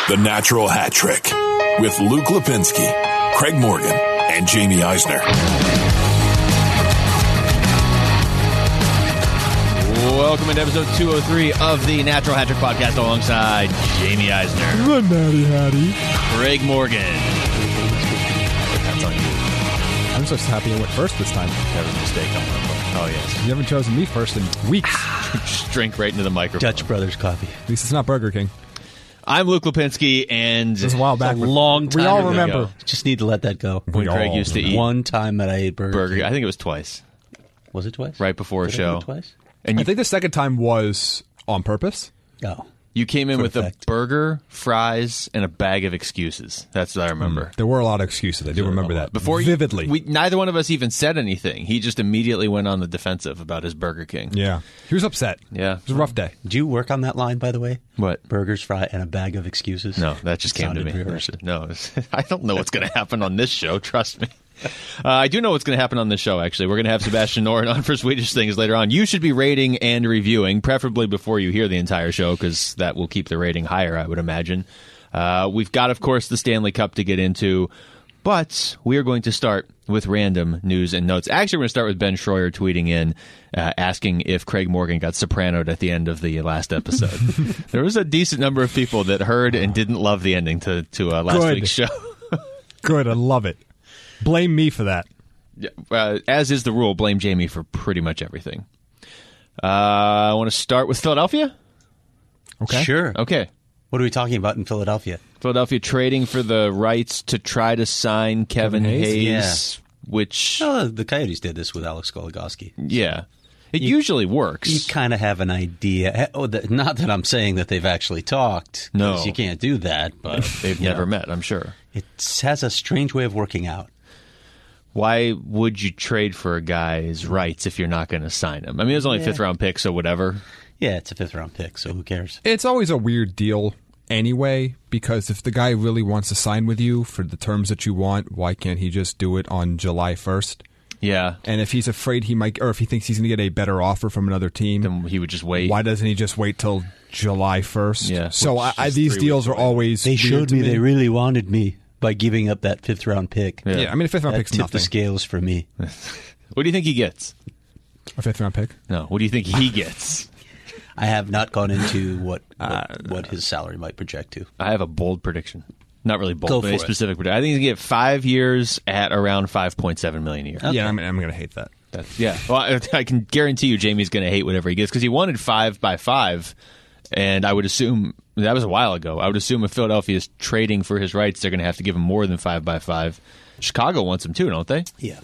The Natural Hat Trick with Luke Lipinski, Craig Morgan, and Jamie Eisner. Welcome to episode 203 of the Natural Hat Trick podcast alongside Jamie Eisner. The Natty Hattie. Craig Morgan. That's on you. I'm just happy I went first this time. That was a mistake on my part. Oh, yes. You haven't chosen me first in weeks. Just drink right into the microphone. Dutch Brothers coffee. At least it's not Burger King. I'm Luke Lipinski, and It was a while back. A long time We all ago. remember. Just need to let that go. when Craig used to eat One time that I ate burger. King. I think it was twice, Was it twice? right before a Did I do show. it twice? And I you, think the second time was on purpose. Oh. you came in for with a effect. burger, fries, and a bag of excuses. That's what I remember. There were a lot of excuses. I do remember that. Before vividly. neither one of us even said anything. He just immediately went on the defensive about his Burger King. Yeah. He was upset. Yeah. It was a rough day. Did you work on that line, by the way? What? Burgers, fry, and a bag of excuses? No, that just came to me. Sounded rehearsed. No, I don't know what's going to happen on this show. Trust me. I do know what's going to happen on this show, actually. We're going to have Sebastian Noren on for Swedish Things later on. You should be rating and reviewing, preferably before you hear the entire show, because that will keep the rating higher, I would imagine. We've got, of course, the Stanley Cup to get into, but we are going to start with random news and notes. Actually, we're going to start with Ben Schroyer tweeting in, asking if Craig Morgan got sopranoed at the end of the last episode. There was a decent number of people that heard and didn't love the ending to last Good. week's show. Good. I love it. Blame me for that. As is the rule, blame Jamie for pretty much everything. I want to start with Philadelphia. Okay. Sure. Okay. What are we talking about in Philadelphia? Philadelphia trading for the rights to try to sign Kevin Hayes? Hayes, which, The Coyotes did this with Alex Goligoski. yeah. It usually works. You kind of have an idea. Not that I'm saying that they've actually talked. 'Cause No. you can't do that. But They've you never know, met, I'm sure. It has a strange way of working out. Why would you trade for a guy's rights if you're not going to sign him? I mean, it was only a fifth-round pick, so whatever. Yeah, it's a fifth-round pick, so who cares? It's always a weird deal anyway, because if the guy really wants to sign with you for the terms that you want, why can't he just do it on July 1st? Yeah. And if he's afraid he might, or if he thinks he's going to get a better offer from another team, Then he would just wait. why doesn't he just wait till July 1st? Yeah, So which is these 3 deals weeks are away. always They weird showed to me they really wanted me by giving up that fifth-round pick. Yeah. Yeah, I mean, a fifth-round That pick's tipped nothing. the scales for me. What do you think he gets? A fifth-round pick? No. What do you think he gets? I have not gone into what his salary might project to. I have a bold prediction. Not really bold, Go but for a it. specific prediction. I think he's going to get 5 years at around $5.7 million a year. Yeah, I'm going to hate that. Yeah. Well, I can guarantee you Jamie's going to hate whatever he gets because he wanted 5 by 5, and I would assume that was a while ago. I would assume if Philadelphia is trading for his rights, they're going to have to give him more than 5 by 5. Chicago wants him too, don't they? Yeah.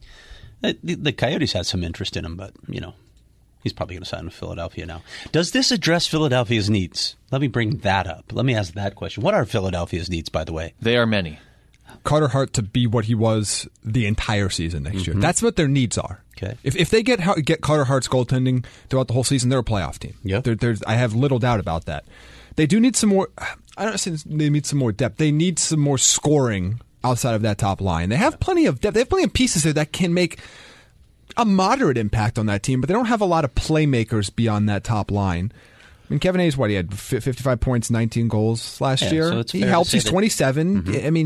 The Coyotes had some interest in him, but, he's probably going to sign with Philadelphia now. Does this address Philadelphia's needs? Let me bring that up. Let me ask that question. What are Philadelphia's needs, by the way? They are many. Carter Hart to be what he was the entire season next year. That's what their needs are. Okay. If they get Carter Hart's goaltending throughout the whole season, they're a playoff team. Yep. I have little doubt about that. They do need some more. I don't say they need some more depth. They need some more scoring outside of that top line. They have plenty of depth. They have plenty of pieces there that can make a moderate impact on that team, but they don't have a lot of playmakers beyond that top line. I mean, Kevin Hayes, he had 55 points, 19 goals last year. So it's He fair to helps. say He's that- 27. I mean,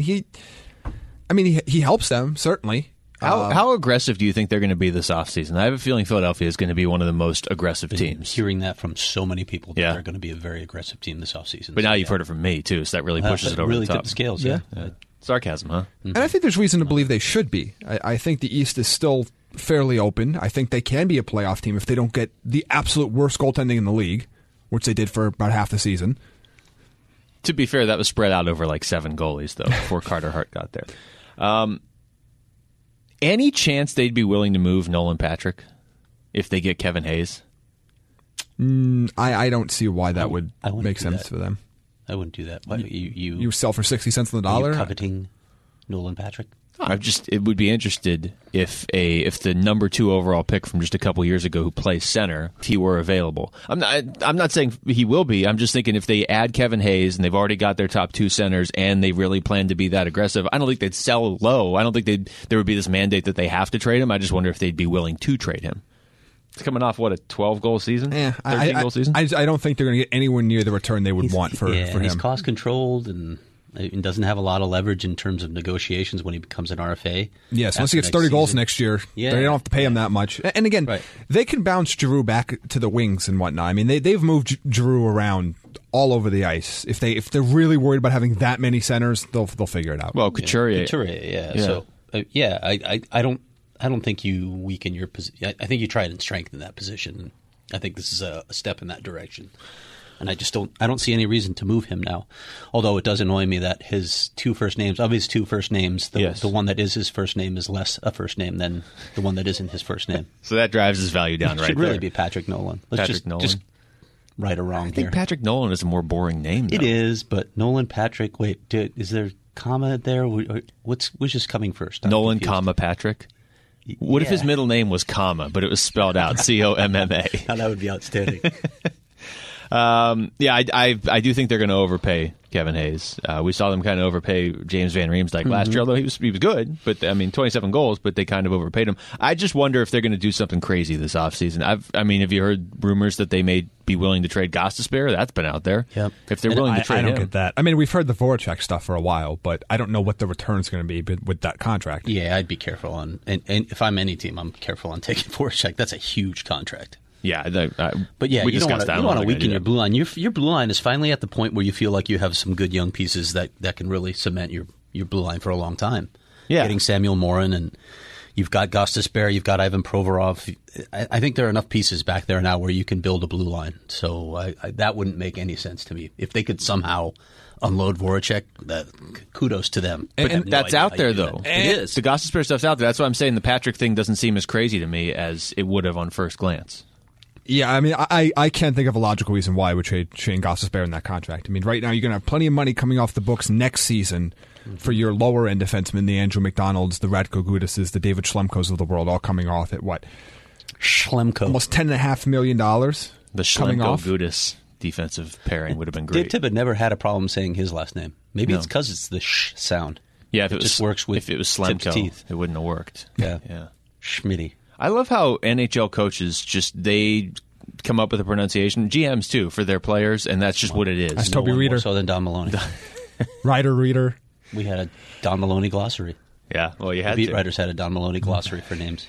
he helps them, certainly. How aggressive do you think they're going to be this offseason? I have a feeling Philadelphia is going to be one of the most aggressive teams. Hearing that from so many people that Yeah. they're going to be a very aggressive team this offseason. But now you've heard it from me, too, so that really pushes it over really the top. tipped the scales, yeah. Sarcasm, huh? And I think there's reason to believe they should be. I think the East is still fairly open. I think they can be a playoff team if they don't get the absolute worst goaltending in the league, which they did for about half the season. To be fair, that was spread out over like 7 goalies, though, before Carter Hart got there. Any chance they'd be willing to move Nolan Patrick if they get Kevin Hayes? I don't see why that would I wouldn't make do sense that. for them. I wouldn't do that. Why, You sell for 60 cents on the are you dollar? coveting Nolan Patrick? It would be interested if the number 2 overall pick from just a couple years ago who plays center, if he were available. I'm not saying he will be. I'm just thinking if they add Kevin Hayes and they've already got their top 2 centers and they really plan to be that aggressive, I don't think they'd sell low. I don't think there would be this mandate that they have to trade him. I just wonder if they'd be willing to trade him. It's coming off, what, a 12-goal season? 13-goal season? I don't think they're going to get anywhere near the return they would want for him. He's cost-controlled and doesn't have a lot of leverage in terms of negotiations when he becomes an RFA. Yes, once he gets 30 goals next year, they don't have to pay him that much. And again, they can bounce Giroux back to the wings and whatnot. I mean, they've moved Giroux around all over the ice. If they're really worried about having that many centers, they'll figure it out. Well, Couturier. So, I don't think you weaken your position. I think you try and strengthen that position. I think this is a step in that direction. And I don't see any reason to move him now. Although it does annoy me that his two first names, the one that is his first name is less a first name than the one that isn't his first name. So that drives his value down right there. It should really be Patrick Nolan. Just right or wrong here. I think Patrick Nolan is a more boring name, though. It is, but Nolan, Patrick, wait, is there comma there? Which is coming first? Nolan, comma, Patrick? What if his middle name was comma, but it was spelled out, Comma? Now that would be outstanding. I do think they're going to overpay Kevin Hayes. We saw them kind of overpay James Van Riemsdyk last year, although he was good. But 27 goals, but they kind of overpaid him. I just wonder if they're going to do something crazy this offseason. Have you heard rumors that they may be willing to trade Gostisbehere? That's been out there. Yep. If they're willing to trade him. I don't get that. I mean, we've heard the Voracek stuff for a while, but I don't know what the return's going to be with that contract. Yeah, I'd be careful on, and if I'm any team, I'm careful on taking Voracek. That's a huge contract. Yeah, but you don't want to weaken your blue line. Your blue line is finally at the point where you feel like you have some good young pieces that can really cement your blue line for a long time. Yeah, getting Samuel Morin, and you've got Gostisbehere, you've got Ivan Provorov. I think there are enough pieces back there now where you can build a blue line. So that wouldn't make any sense to me if they could somehow unload Voracek. Kudos to them. But that's out there, though. It is. The Gostisbehere stuff's out there. That's why I'm saying the Patrick thing doesn't seem as crazy to me as it would have on first glance. Yeah, I mean, I can't think of a logical reason why I would trade Shane Gostisbehere in that contract. I mean, right now you're going to have plenty of money coming off the books next season for your lower end defensemen, the Andrew McDonalds, the Radko Gudises, the David Schlemkos of the world, all coming off at what? Schlemko. Almost $10.5 million. The Schlemko-Gudis defensive pairing would have been great. Dave Tippett never had a problem saying his last name. Maybe it's because it's the sh sound. Yeah, it just works with if it was Schlemko, teeth. It wouldn't have worked. Yeah. Schmitty. I love how NHL coaches they come up with a pronunciation, GMs too, for their players, and that's just what it is. That's Toby Reeder. More so than Don Maloney. Reeder. We had a Don Maloney glossary. Yeah, well, you had the beat writers had a Don Maloney glossary for names.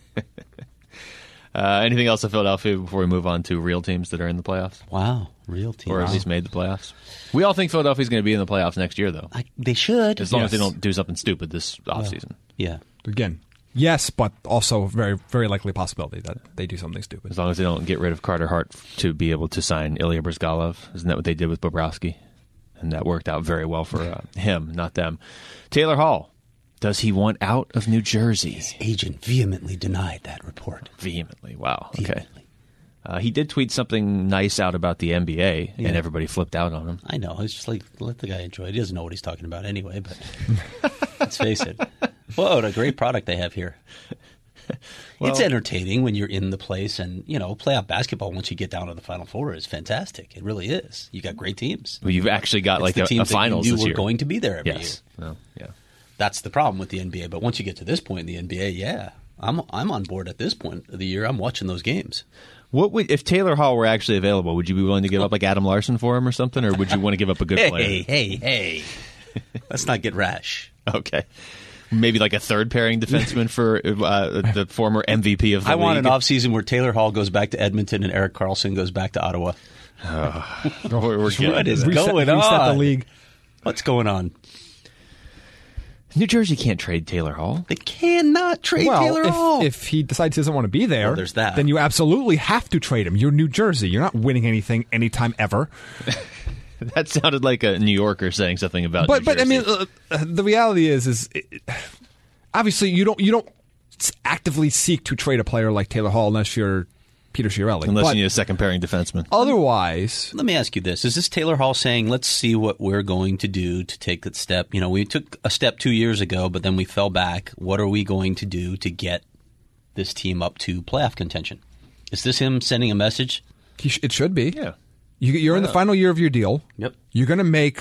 Anything else of Philadelphia before we move on to real teams that are in the playoffs? Wow, real teams. Or at least made the playoffs. We all think Philadelphia's going to be in the playoffs next year, though. They should. As long as they don't do something stupid this offseason. Yeah. Again, yes, but also very, very likely possibility that they do something stupid. As long as they don't get rid of Carter Hart to be able to sign Ilya Bryzgalov. Isn't that what they did with Bobrovsky? And that worked out very well for him, not them. Taylor Hall. Does he want out of New Jersey? His agent vehemently denied that report. Vehemently. Wow. Vehemently. Okay. He did tweet something nice out about the NBA, and everybody flipped out on him. I know. It's just like, let the guy enjoy it. He doesn't know what he's talking about anyway, but let's face it. Whoa, what a great product they have here. Well, it's entertaining when you're in the place, and, playoff basketball, once you get down to the Final Four, is fantastic. It really is. You got great teams. Well, you've actually got a finals this year. We're going to be there every year. Well, yeah. That's the problem with the NBA. But once you get to this point in the NBA, I'm on board at this point of the year. I'm watching those games. If Taylor Hall were actually available, would you be willing to give up like Adam Larson for him or something, or would you want to give up a good player? Hey. Let's not get rash. Okay. Maybe like a third pairing defenseman for the former MVP of the league. I want an offseason where Taylor Hall goes back to Edmonton and Erik Karlsson goes back to Ottawa. What is going on? Reset the league. What's going on? New Jersey can't trade Taylor Hall. They cannot trade Taylor Hall. If he decides he doesn't want to be there, there's that. Then you absolutely have to trade him. You're New Jersey. You're not winning anything anytime ever. That sounded like a New Yorker saying something about New Jersey. But I mean, the reality is obviously you don't actively seek to trade a player like Taylor Hall unless you're Peter Chiarelli. Unless you need a second pairing defenseman. Otherwise... Let me ask you this. Is this Taylor Hall saying, let's see what we're going to do to take that step? We took a step 2 years ago, but then we fell back. What are we going to do to get this team up to playoff contention? Is this him sending a message? It should be. Yeah. You're in the final year of your deal. Yep. You're going to make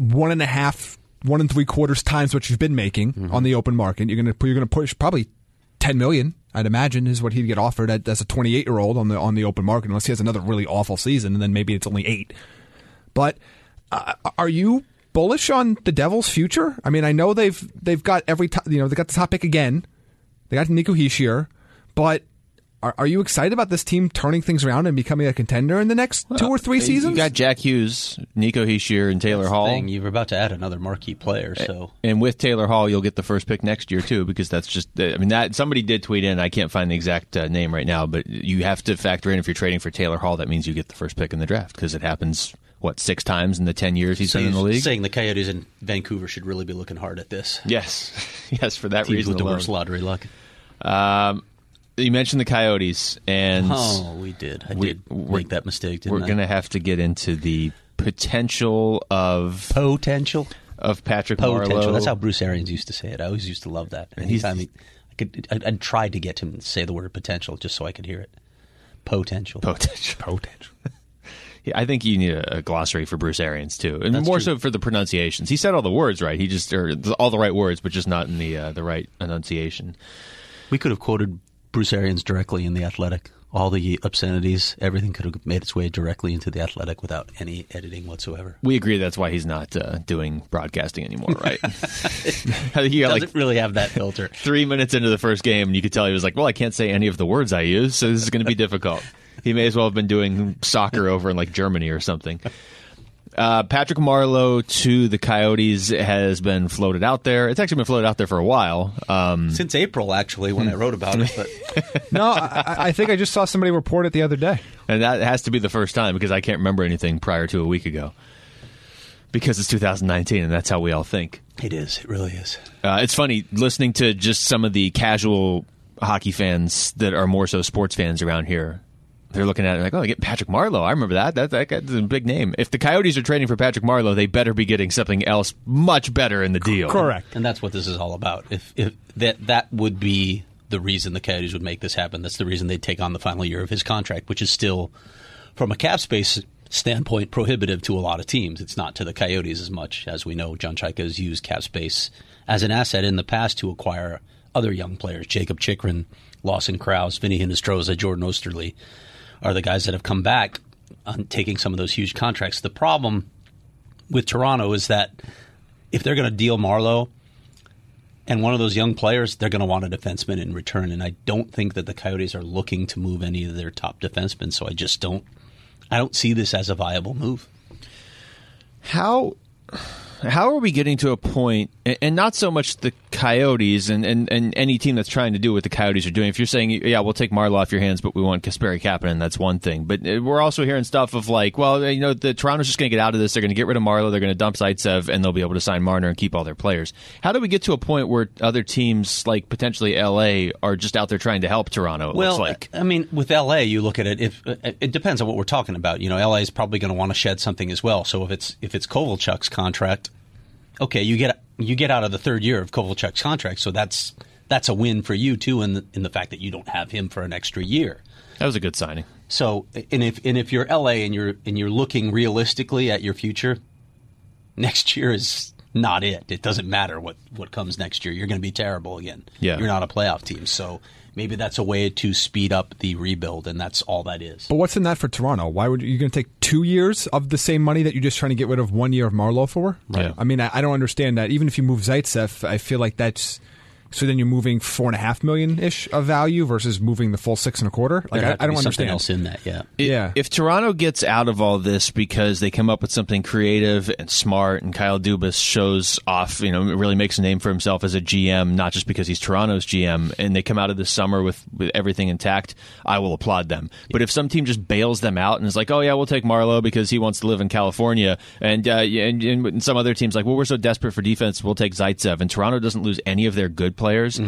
1.5, 1 3/4 times what you've been making on the open market. You're going to push probably $10 million, I'd imagine, is what he'd get offered as a 28-year-old on the open market, unless he has another really awful season, and then maybe it's only 8. But are you bullish on the Devils' future? I mean, I know they've got they got the top pick again. They got Nico Hischier, but are you excited about this team turning things around and becoming a contender in the next 2 or 3 seasons? You got Jack Hughes, Nico Hischier, and Taylor Hall. You're about to add another marquee player, so and with Taylor Hall, you'll get the first pick next year too, because that's just. I mean, that somebody did tweet in. I can't find the exact name right now, but you have to factor in if you're trading for Taylor Hall, that means you get the first pick in the draft because it happens. 6 times in the 10 years he's been in the league? Saying the Coyotes in Vancouver should really be looking hard at this. Yes. Yes, for that Teams reason with the alone. worst lottery luck. You mentioned the Coyotes, and we did. I did make that mistake, didn't I? We're going to have to get into the potential of Patrick Marleau. That's how Bruce Arians used to say it. I always used to love that. Anytime I'd tried to get him to say the word potential just so I could hear it. Potential. I think you need a glossary for Bruce Arians too, and That's more true. so for the pronunciations. He said all the words right. He just all the right words, but just not in the right enunciation. We could have quoted Bruce Arians directly in The Athletic. All the obscenities, everything could have made its way directly into The Athletic without any editing whatsoever. We agree that's why he's not doing broadcasting anymore, right? I think he Doesn't really have that filter. 3 minutes into the first game, and you could tell he was like, well, I can't say any of the words I use, so this is going to be difficult. He may as well have been doing soccer over in like Germany or something. Patrick Marleau to the Coyotes has been floated out there. It's actually been floated out there for a while. Since April, actually, when I wrote about it. But No, I think I just saw somebody report it the other day. And that has to be the first time because I can't remember anything prior to a week ago. Because it's 2019, and that's how we all think. It is. It really is. It's funny listening to just some of the casual hockey fans that are more so sports fans around here. They're looking at it like, oh, they get Patrick Marleau. I remember that. That guy's a big name. If the Coyotes are trading for Patrick Marleau, they better be getting something else much better in the deal. Correct. And that's what this is all about. If that would be the reason the Coyotes would make this happen. That's the reason they'd take on the final year of his contract, which is still, from a cap space standpoint, prohibitive to a lot of teams. It's not to the Coyotes as much. As we know, John Chayka has used cap space as an asset in the past to acquire other young players. Jacob Chikrin, Lawson Krause, Vinny Hinostroza, Jordan Osterley are the guys that have come back on taking some of those huge contracts. The problem with Toronto is that if they're going to deal Marleau and one of those young players, they're going to want a defenseman in return. And I don't think that the Coyotes are looking to move any of their top defensemen. So I don't see this as a viable move. How are we getting to a point, and not so much the Coyotes and any team that's trying to do what the Coyotes are doing. If you're saying, yeah, we'll take Marleau off your hands, but we want Kasperi Kapanen, that's one thing. But we're also hearing stuff of like, well, the Toronto's just going to get out of this. They're going to get rid of Marleau. They're going to dump Zaitsev, and they'll be able to sign Marner and keep all their players. How do we get to a point where other teams, like potentially LA, are just out there trying to help Toronto? It looks like. I mean, with LA, you look at it. If it depends on what we're talking about. LA is probably going to want to shed something as well. So if it's Kovalchuk's contract. Okay, you get out of the third year of Kovalchuk's contract, so that's a win for you too, in the fact that you don't have him for an extra year. That was a good signing. So, and if you're LA and you're looking realistically at your future, next year is not it. It doesn't matter what comes next year. You're going to be terrible again. Yeah. You're not a playoff team, so maybe that's a way to speed up the rebuild, and that's all that is. But what's in that for Toronto? Why would you going to take 2 years of the same money that you're just trying to get rid of 1 year of Marleau for? Right. Yeah. I mean, I don't understand that. Even if you move Zaitsev, I feel like that's so. Then you're moving $4.5 million ish of value versus moving the full $6.25. Like I don't understand. Something else in that, yeah. If Toronto gets out of all this because they come up with something creative and smart, and Kyle Dubas shows off, really makes a name for himself as a GM, not just because he's Toronto's GM, and they come out of this summer with everything intact, I will applaud them. Yeah. But if some team just bails them out and is like, oh yeah, we'll take Marleau because he wants to live in California, and some other teams like, well, we're so desperate for defense, we'll take Zaitsev, and Toronto doesn't lose any of their good players,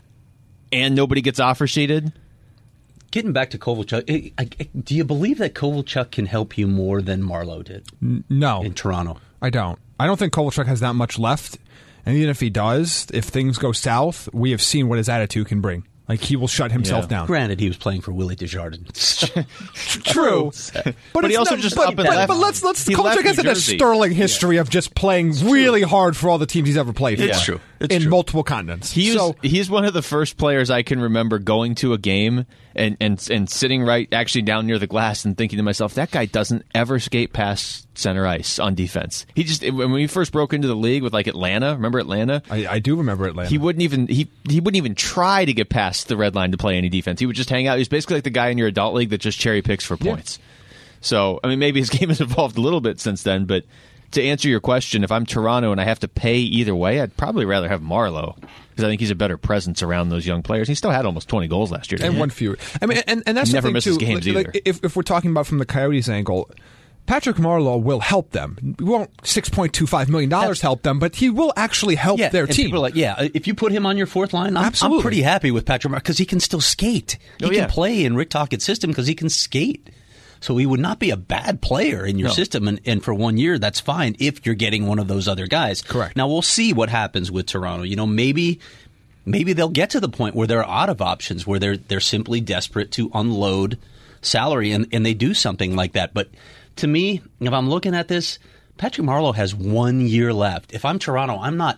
and nobody gets offer sheeted. Getting back to Kovalchuk, do you believe that Kovalchuk can help you more than Marleau did? No. In Toronto? I don't. I don't think Kovalchuk has that much left. And even if he does, if things go south, we have seen what his attitude can bring. Like, he will shut himself down. Granted, he was playing for Willie Desjardins. True. But he also just up and left. But Kovalchuk has had a sterling history of just playing really hard for all the teams he's ever played for. It's true. in multiple continents. He's one of the first players I can remember going to a game and sitting right actually down near the glass and thinking to myself, that guy doesn't ever skate past center ice on defense. When he first broke into the league with like Atlanta, remember Atlanta? I do remember Atlanta. He wouldn't even try to get past the red line to play any defense. He would just hang out. He was basically like the guy in your adult league that just cherry picks for points. So, I mean, maybe his game has evolved a little bit since then, but to answer your question, if I'm Toronto and I have to pay either way, I'd probably rather have Marleau because I think he's a better presence around those young players. He still had almost 20 goals last year. And one fewer. I mean, and that's never the thing misses too. games either. If we're talking about from the Coyotes angle, Patrick Marleau will help them. We won't $6.25 million help them, but he will actually help their team. People are like, if you put him on your fourth line, I'm pretty happy with Patrick Marleau because he can still skate. He can play in Rick Tocchet's system because he can skate. So he would not be a bad player in your system, and for 1 year, that's fine if you're getting one of those other guys. Correct. Now, we'll see what happens with Toronto. You know, maybe they'll get to the point where they're out of options, where they're simply desperate to unload salary, and they do something like that. But to me, if I'm looking at this, Patrick Marleau has 1 year left. If I'm Toronto, I'm not.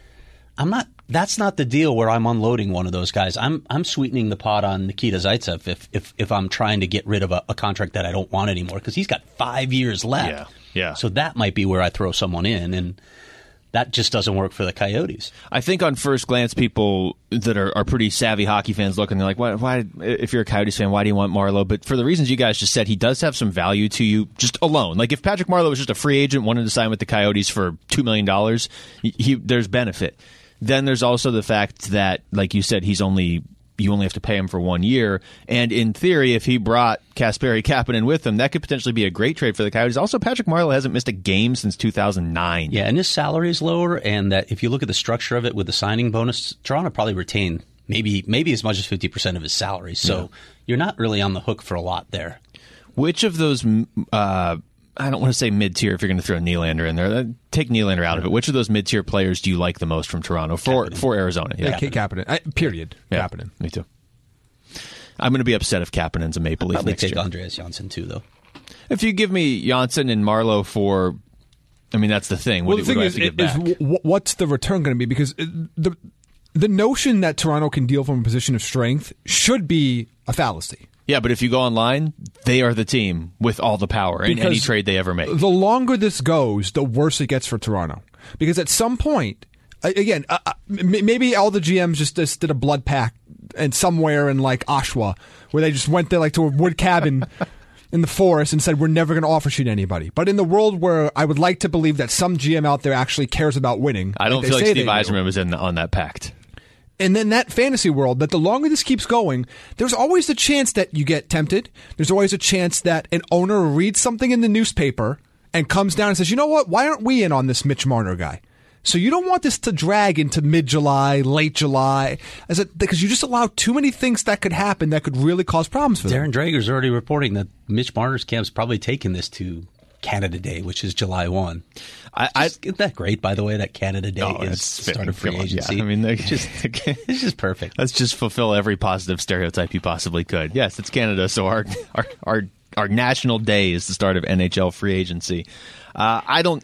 That's not the deal where I'm unloading one of those guys. I'm sweetening the pot on Nikita Zaitsev if I'm trying to get rid of a contract that I don't want anymore because he's got 5 years left. Yeah. So that might be where I throw someone in, and that just doesn't work for the Coyotes. I think on first glance, people that are pretty savvy hockey fans look and they're like, why? If you're a Coyotes fan, why do you want Marleau? But for the reasons you guys just said, he does have some value to you just alone. Like if Patrick Marleau was just a free agent, wanted to sign with the Coyotes for $2 million, there's benefit. Then there's also the fact that, like you said, you only have to pay him for 1 year. And in theory, if he brought Kasperi Kapanen with him, that could potentially be a great trade for the Coyotes. Also, Patrick Marleau hasn't missed a game since 2009. Yeah, and his salary is lower, and that if you look at the structure of it with the signing bonus, Toronto probably retain maybe as much as 50% of his salary. So you're not really on the hook for a lot there. Which of those... I don't want to say mid-tier if you're going to throw Nylander in there. Take Nylander out of it. Which of those mid-tier players do you like the most from Toronto for Arizona? Yeah, Kapanen. Period. Yeah, Kapanen. Me too. I'm going to be upset if Kapanen's a Maple Leaf next year. I'll probably take Andreas Janssen too, though. If you give me Janssen and Marleau for... I mean, that's the thing. Well, the thing is what's the return going to be? Because the notion that Toronto can deal from a position of strength should be a fallacy. Yeah, but if you go online, they are the team with all the power in any trade they ever make. The longer this goes, the worse it gets for Toronto. Because at some point, again, maybe all the GMs just did a blood pact and somewhere in like Oshawa, where they just went there like to a wood cabin in the forest and said, we're never going to offer shit to anybody. But in the world where I would like to believe that some GM out there actually cares about winning. I don't feel like Steve Yzerman was on that pact. And then that fantasy world, that the longer this keeps going, there's always the chance that you get tempted. There's always a chance that an owner reads something in the newspaper and comes down and says, you know what, why aren't we in on this Mitch Marner guy? So you don't want this to drag into mid-July, late July, because you just allow too many things that could happen that could really cause problems for them. Darren Drager's already reporting that Mitch Marner's camp's probably taken this to Canada Day, which is July 1. Isn't that great, by the way, that Canada Day is the start of free agency? Yeah. I mean, it's just perfect. Let's just fulfill every positive stereotype you possibly could. Yes, it's Canada, so our national day is the start of NHL free agency. I don't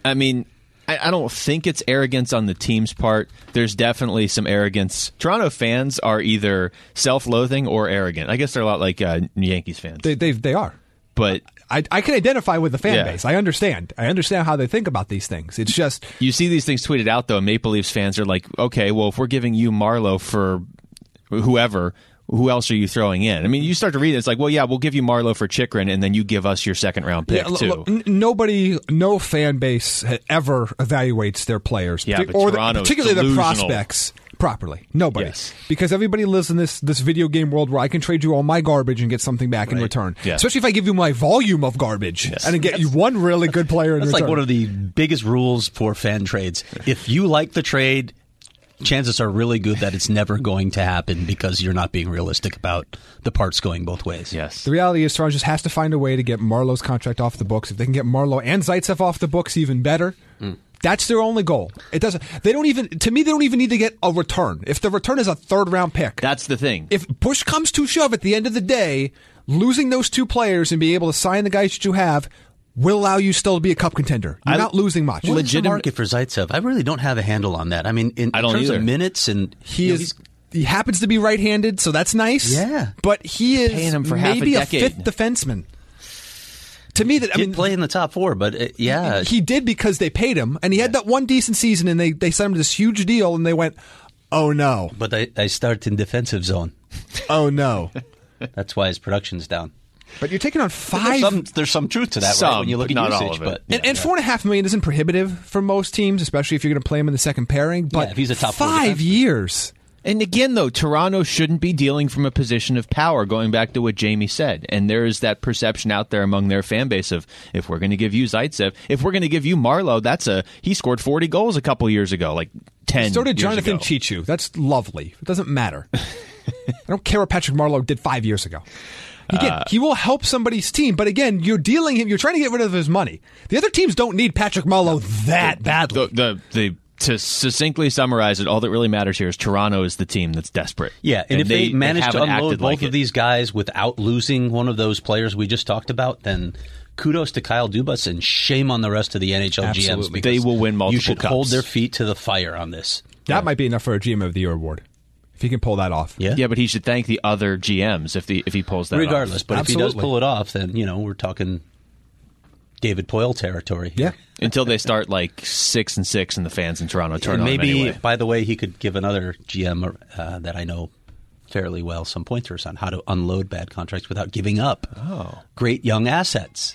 think it's arrogance on the team's part. There's definitely some arrogance. Toronto fans are either self-loathing or arrogant. I guess they're a lot like Yankees fans. They are. But I can identify with the fan base. I understand how they think about these things. It's just... You see these things tweeted out, though. Maple Leafs fans are like, okay, well, if we're giving you Marleau for whoever, who else are you throwing in? I mean, you start to read it, it's like, well, yeah, we'll give you Marleau for Chychrun, and then you give us your second-round pick, too. No fan base ever evaluates their players, particularly the prospects, properly. Nobody. Yes. Because everybody lives in this video game world where I can trade you all my garbage and get something back in return. Yeah. Especially if I give you my volume of garbage and get you one really good player in return. That's like one of the biggest rules for fan trades. If you like the trade, chances are really good that it's never going to happen because you're not being realistic about the parts going both ways. Yes. The reality is Toronto just has to find a way to get Marleau's contract off the books. If they can get Marleau and Zaitsev off the books, even better. That's their only goal. They don't even need to get a return. If the return is a third-round pick. That's the thing. If push comes to shove at the end of the day, losing those two players and being able to sign the guys that you have will allow you still to be a cup contender. You're not losing much. What is the market for Zaitsev? I really don't have a handle on that. I mean, in terms of minutes, and he happens to be right-handed, so that's nice. Yeah, but he is paying him for maybe half a decade. fifth defenseman. To me, that play in the top four, but he did because they paid him, and he had that one decent season, and they signed him to this huge deal, and they went, "Oh no!" But I start in defensive zone. Oh no! That's why his production's down. But you're taking on five. There's some truth to that, right? When you look at not usage, all of it. And $4.5 million isn't prohibitive for most teams, especially if you're going to play him in the second pairing. But if he's a top 5 years. And again, though, Toronto shouldn't be dealing from a position of power, going back to what Jamie said. And there is that perception out there among their fan base of, if we're going to give you Zaitsev, if we're going to give you Marleau, he scored 40 goals a couple years ago, like 10 So did years Jonathan ago. Chichu. That's lovely. It doesn't matter. I don't care what Patrick Marleau did 5 years ago. Again, he will help somebody's team, but again, you're trying to get rid of his money. The other teams don't need Patrick Marleau that badly. To succinctly summarize it, all that really matters here is Toronto is the team that's desperate. Yeah, and if they manage to haven't unload acted both like of it. these guys without losing one of those players we just talked about, then kudos to Kyle Dubas and shame on the rest of the NHL GMs. Absolutely. They will win multiple You should cups. hold their feet to the fire on this. That might be enough for a GM of the Year award. If he can pull that off. Yeah, but he should thank the other GMs if he pulls that regardless. off. But Absolutely. if he does pull it off, then we're talking David Poile territory. Yeah. Until they start like 6-6 and the fans in Toronto turn And on maybe, him anyway. by the way, he could give another GM that I know fairly well some pointers on how to unload bad contracts without giving up great young assets.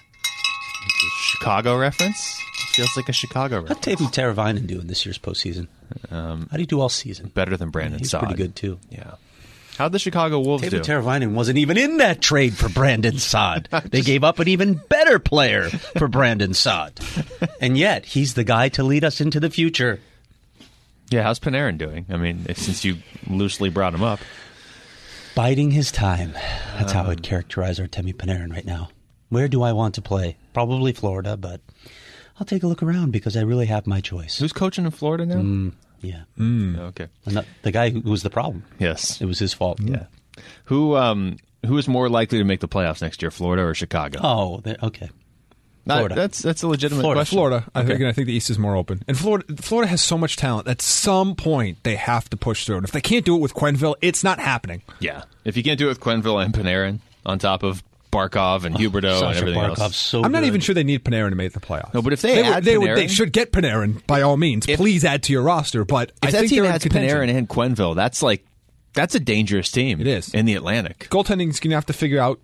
Chicago reference? Feels like a Chicago How'd reference. Teuvo Teravainen do in this year's postseason? How do you do all season? Better than Brandon He's Saad. pretty good, too. Yeah. How'd the Chicago Wolves do? Teuvo Teravainen wasn't even in that trade for Brandon Saad. They gave up an even better player for Brandon Saad. And yet, he's the guy to lead us into the future. Yeah, how's Panarin doing? I mean, since you loosely brought him up. Biding his time. That's how I'd characterize Artemi Panarin right now. Where do I want to play? Probably Florida, but I'll take a look around because I really have my choice. Who's coaching in Florida now? Yeah. Okay. The guy who was the problem. Yes. It was his fault. Yeah. Who is more likely to make the playoffs next year, Florida or Chicago? Oh, okay. Florida. That's a legitimate Florida. question. Florida. I think the East is more open. And Florida has so much talent. At some point, they have to push through. And if they can't do it with Quenneville, it's not happening. Yeah. If you can't do it with Quenneville and Panarin on top of Barkov and Huberdeau and Sasha everything Barkov's else. so I'm not good. even sure they need Panarin to make the playoffs. No, but if they they should get Panarin by all means. Please add to your roster. But If I that think team they're in has contention. Panarin and Quenneville, that's a dangerous team. It is. In the Atlantic. Goaltending's going to have to figure out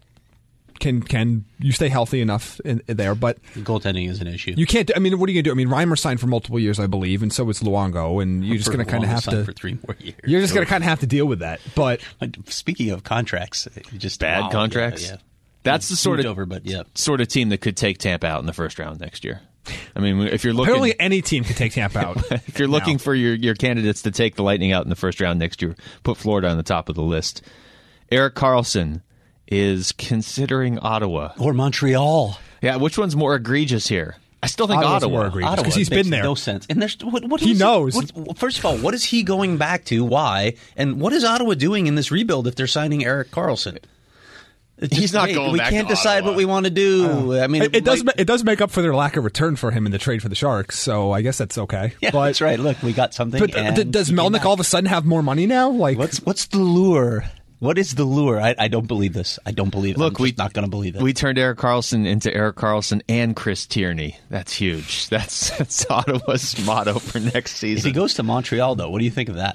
can you stay healthy enough in there, but Goaltending is an issue. you can't. I mean, what are you going to do? I mean, Reimer signed for multiple years, I believe, and so is Luongo, and you're just going to kind of have to. for 3 more years. You're just going to kind of have to deal with that. But Speaking of contracts, just Bad wow, contracts? Yeah. That's the sort Moved of over, but yeah. sort of team that could take Tampa out in the first round next year. I mean, if you're looking, apparently, any team can take Tampa out. if you're looking for your candidates to take the Lightning out in the first round next year, put Florida on the top of the list. Erik Karlsson is considering Ottawa Or Montreal. Yeah, which one's more egregious here? I still think Ottawa's Ottawa. more egregious. Ottawa 'Cause he's makes been there. No sense. And there's what He is knows. First of all, what is he going back to? Why? And what is Ottawa doing in this rebuild if they're signing Erik Karlsson? It's He's not going We back can't to decide Ottawa. what we want to do. I mean, It does make up for their lack of return for him in the trade for the Sharks, so I guess that's okay. Yeah, but, that's right. Look, we got something. But and does he came Melnick back. all of a sudden have more money now? Like, What's the lure? What is the lure? I don't believe this. I don't believe it. Look, I'm just not going to believe it. We turned Erik Karlsson into Erik Karlsson and Chris Tierney. That's huge. That's Ottawa's motto for next season. if he goes to Montreal, though, what do you think of that?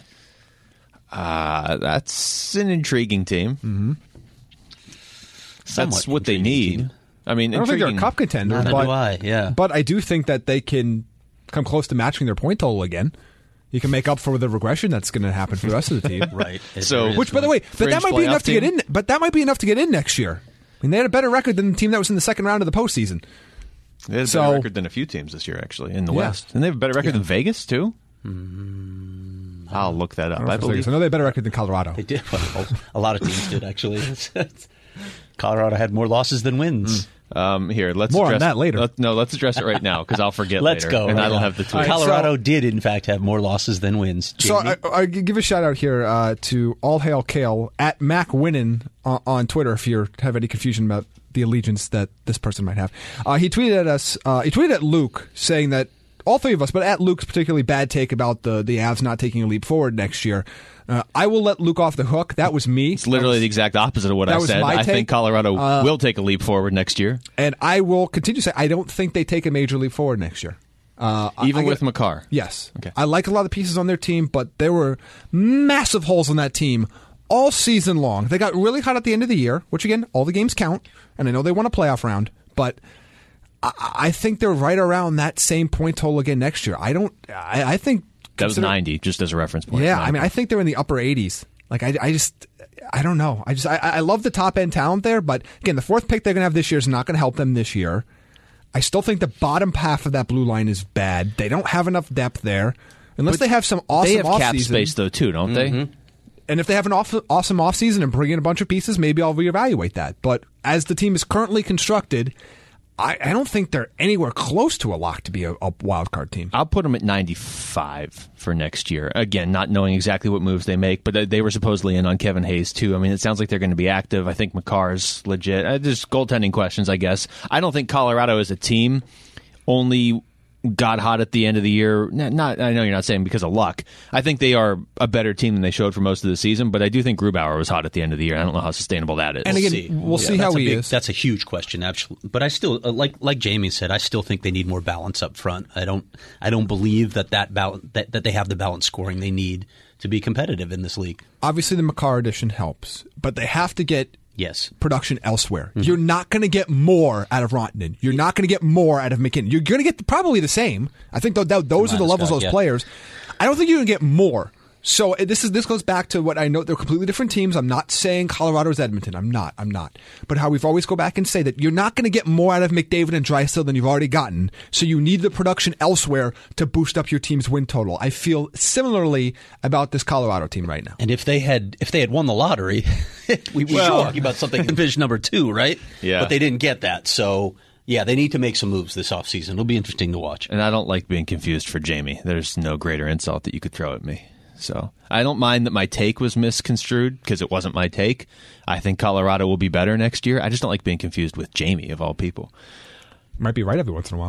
That's an intriguing team. Mm-hmm. That's Somewhat what they intriguing need. team. I mean, I don't think they're a intriguing. cup contender, Neither but do I, yeah. But I do think that they can come close to matching their point total again. You can make up for the regression that's going to happen for the rest of the team. Right. So- There is Which, by the way, but Fringe that might be playoff enough to get team? in. But that might be enough to get in next year. I mean, they had a better record than the team that was in the second round of the postseason. They had a So- better record than a few teams this year, actually, in the Yeah. West. And they have a better record than Vegas, too? I'll look that up. I believe. I know they had a better record than Colorado. They did. Well, a lot of teams did, actually. Colorado had more losses than wins. Here, let's More on address that later. Let's address it right now because I'll forget Let's later. go. And right I don't now. have the tweet. All right, Colorado did, in fact, have more losses than wins. So Jamie? I give a shout out here to All Hail Kale at Mac Winnan on Twitter if you have any confusion about the allegiance that this person might have. He tweeted at us. He tweeted at Luke saying that all three of us, but at Luke's particularly bad take about the Avs not taking a leap forward next year. I will let Luke off the hook. That was me. It's literally the exact opposite of what I said. I think Colorado will take a leap forward next year. And I will continue to say I don't think they take a major leap forward next year. Even with Makar? Yes. Okay. I like a lot of the pieces on their team, but there were massive holes in that team all season long. They got really hot at the end of the year, which, again, all the games count, and I know they won a playoff round, but I think they're right around that same point total again next year. I think... That was 90, just as a reference point. Yeah, I mean, I think they're in the upper 80s. Like, I don't know. I love the top-end talent there, but, again, the fourth pick they're going to have this year is not going to help them this year. I still think the bottom half of that blue line is bad. They don't have enough depth there. Unless they have some awesome offseason. They have cap offseason. space, though, too, don't they? And if they have an awesome offseason and bring in a bunch of pieces, maybe I'll reevaluate that. But as the team is currently constructed, I don't think they're anywhere close to a lock to be a wild card team. I'll put them at 95 for next year. Again, not knowing exactly what moves they make, but they were supposedly in on Kevin Hayes, too. I mean, it sounds like they're going to be active. I think Makar's legit. There's goaltending questions, I guess. I don't think Colorado as a team only got hot at the end of the year. I know you're not saying because of luck. I think they are a better team than they showed for most of the season, but I do think Grubauer was hot at the end of the year. I don't know how sustainable that is. And again, we'll see how he is. That's a huge question, actually. But I still, like Jamie said, I still think they need more balance up front. I don't believe that they have the balance scoring they need to be competitive in this league. Obviously, the Makar addition helps, but they have to get production elsewhere. Mm-hmm. You're not going to get more out of Rantanen. You're not going to get more out of McKinnon. You're going to get probably the same. I think those are the levels of those players. I don't think you're going to get more. So this goes back to what I know. They're completely different teams. I'm not saying Colorado's Edmonton. I'm not. But how we've always go back and say that you're not going to get more out of McDavid and Draisaitl than you've already gotten. So you need the production elsewhere to boost up your team's win total. I feel similarly about this Colorado team right now. And if they had won the lottery, we'd be talking about something in division number 2, right? Yeah. But they didn't get that. So yeah, they need to make some moves this offseason. It'll be interesting to watch. And I don't like being confused for Jamie. There's no greater insult that you could throw at me. So I don't mind that my take was misconstrued because it wasn't my take. I think Colorado will be better next year. I just don't like being confused with Jamie, of all people. Might be right every once in a while.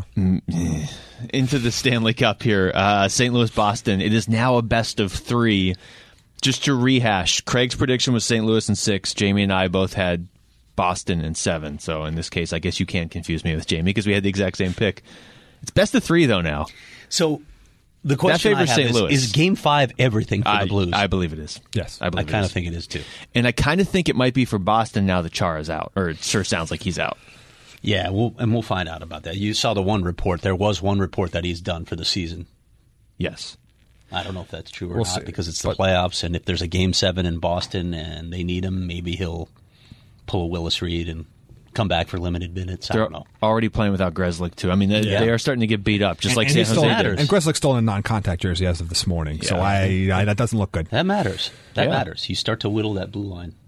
Into the Stanley Cup here. St. Louis, Boston. It is now a best of 3. Just to rehash, Craig's prediction was St. Louis in 6. Jamie and I both had Boston in 7. So in this case, I guess you can't confuse me with Jamie because we had the exact same pick. It's best of 3, though, now. So the question I have is Game 5 everything for the Blues? I believe it is. Yes. I kind of think it is, too. And I kind of think it might be for Boston now that Chara's out, or it sure sounds like he's out. Yeah, we'll find out about that. You saw the one report. There was one report that he's done for the season. Yes. I don't know if that's true or not because it's the playoffs, and if there's a Game 7 in Boston and they need him, maybe he'll pull a Willis Reed and come back for limited minutes. I don't know. Already playing without Grzelcyk, too. I mean, they are starting to get beat up, just like San Jose did. And Grzelcyk's still in a non-contact jersey as of this morning, so that doesn't look good. That matters. That matters. You start to whittle that blue line.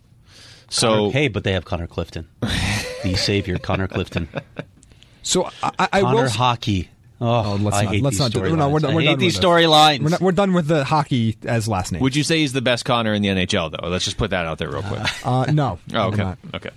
But they have Connor Clifton. The savior, Connor Clifton. So Connor Hockey. Let's not do it. I hate these storylines. We're done with the hockey as last name. Would you say he's the best Connor in the NHL, though? Let's just put that out there real quick. No. Oh, okay. Okay.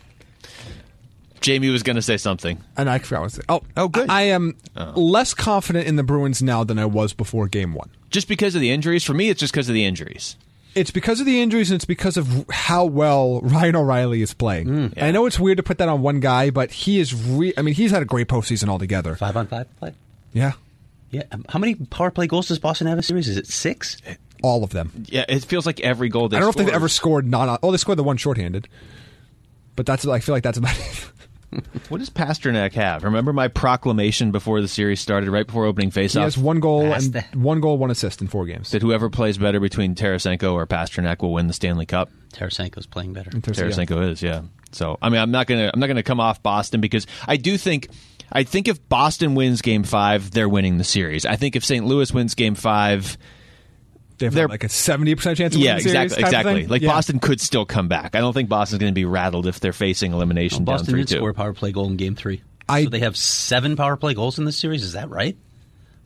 Jamie was going to say something. And I forgot what to say. Oh, good. I am less confident in the Bruins now than I was before Game 1. Just because of the injuries? For me, it's just because of the injuries. It's because of the injuries, and it's because of how well Ryan O'Reilly is playing. I know it's weird to put that on one guy, but he is. He's had a great postseason altogether. 5-on-5 play. Yeah. Yeah. How many power play goals does Boston have in a series? Is it 6? All of them. Yeah. It feels like every goal. I don't know if they've ever scored they scored the one shorthanded, but I feel like that's about it. What does Pasternak have? Remember my proclamation before the series started, right before opening faceoff? He has 1 goal and 1 assist in 4 games. That whoever plays better between Tarasenko or Pasternak will win the Stanley Cup. Tarasenko's playing better. Tarasenko is, yeah. So I mean, I'm not gonna come off Boston because I think if Boston wins Game 5, they're winning the series. I think if St. Louis wins Game 5. They're like a 70% chance of winning the series. Exactly. Like Boston could still come back. I don't think Boston's going to be rattled if they're facing elimination down 3-2. Boston did score a power play goal in Game 3. So they have 7 power play goals in this series. Is that right?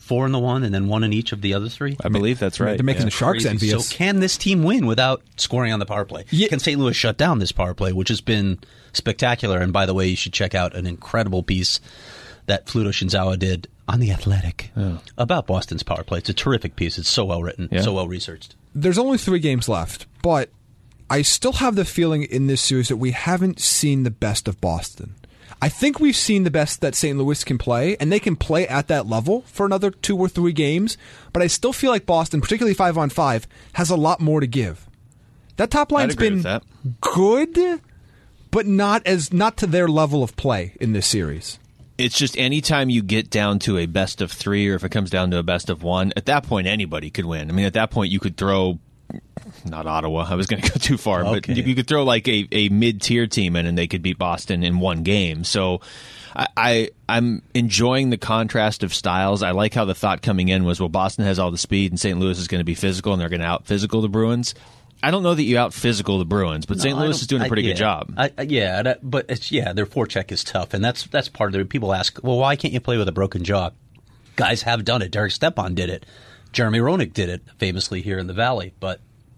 4 in the one and then 1 in each of the other 3? I believe that's right. They're making the Sharks Crazy. envious. So can this team win without scoring on the power play? Yeah. Can St. Louis shut down this power play, which has been spectacular? And by the way, you should check out an incredible piece that Fluto Shinzawa did on The Athletic about Boston's power play. It's a terrific piece. It's so well written, so well researched. There's only 3 games left, but I still have the feeling in this series that we haven't seen the best of Boston. I think we've seen the best that St. Louis can play, and they can play at that level for another 2 or 3 games, but I still feel like Boston, particularly 5-on-5, has a lot more to give. That top line's been good, but not to their level of play in this series. It's just anytime you get down to a best of 3, or if it comes down to a best of 1, at that point anybody could win. I mean, at that point you could throw, not Ottawa, I was going to go too far, but you could throw like a mid-tier team in and they could beat Boston in 1 game. So I'm enjoying the contrast of styles. I like how the thought coming in was, well, Boston has all the speed and St. Louis is going to be physical and they're going to out-physical the Bruins. I don't know that you out-physical the Bruins, but St. Louis is doing a pretty good job. But their forecheck is tough, and that's part of it. People ask, well, why can't you play with a broken jaw? Guys have done it. Derek Stepan did it. Jeremy Roenick did it famously here in the Valley, but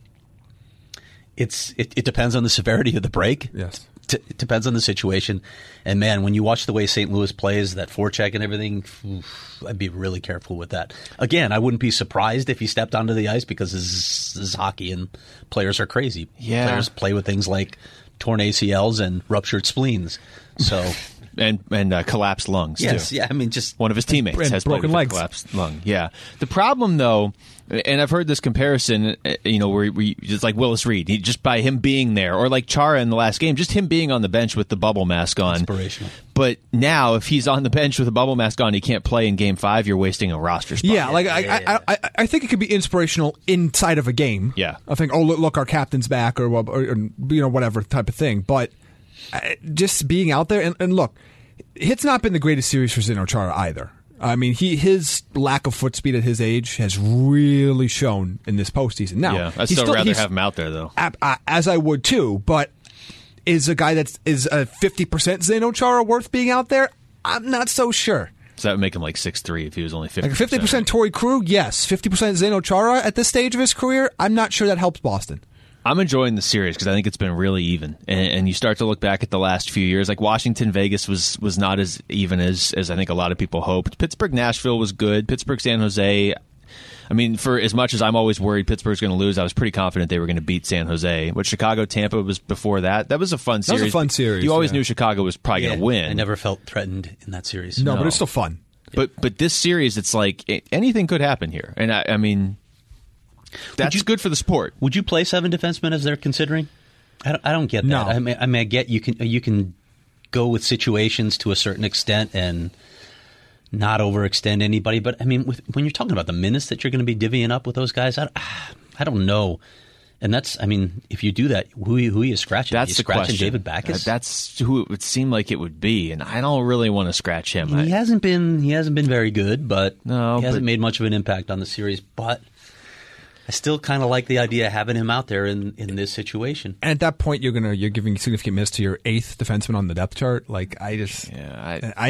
it depends on the severity of the break. Yes. It depends on the situation. And, man, when you watch the way St. Louis plays, that forecheck and everything, I'd be really careful with that. Again, I wouldn't be surprised if he stepped onto the ice because this is hockey and players are crazy. Yeah. Players play with things like torn ACLs and ruptured spleens. So... and collapsed lungs, yes, too. Yeah, I mean, just... One of his teammates and has broken legs. Collapsed lung. Yeah. The problem, though, and I've heard this comparison, where it's like Willis Reed, just by him being there, or like Chara in the last game, just him being on the bench with the bubble mask on. Inspirational. But now, if he's on the bench with a bubble mask on, he can't play in Game 5, you're wasting a roster spot. Yeah, I think it could be inspirational inside of a game. Yeah. I think, look, our captain's back, or whatever type of thing. But just being out there, and look, it's not been the greatest series for Zdeno Chara either. I mean, his lack of foot speed at his age has really shown in this postseason. Now, yeah, I'd still rather have him out there, though. As I would, too, but is a guy is a 50% Zdeno Chara worth being out there? I'm not so sure. So that would make him like 6'3" if he was only 50%. Like 50% Torrey Krug, yes. 50% Zdeno Chara at this stage of his career, I'm not sure that helps Boston. I'm enjoying the series because I think it's been really even. And you start to look back at the last few years. Like Washington, Vegas was not as even as I think a lot of people hoped. Pittsburgh, Nashville was good. Pittsburgh, San Jose. I mean, for as much as I'm always worried Pittsburgh's going to lose, I was pretty confident they were going to beat San Jose. But Chicago, Tampa was before that. That was a fun series. That was a fun series. You always knew Chicago was probably going to win. I never felt threatened in that series. No, but it's still fun. But this series, it's like anything could happen here. And I mean... That's good for the sport. Would you play 7 defensemen as they're considering? I don't get that. No. I mean, I get you can go with situations to a certain extent and not overextend anybody. But I mean, when you're talking about the minutes that you're going to be divvying up with those guys, I don't know. And that's, I mean, if you do that, who are you scratching? That's are you the scratching question. David Backes? That's who it would seem like it would be, and I don't really want to scratch him. He hasn't been very good, but he hasn't but made much of an impact on the series. But I still kind of like the idea of having him out there in this situation. And at that point, you're giving significant minutes to your 8th defenseman on the depth chart. Like to me, I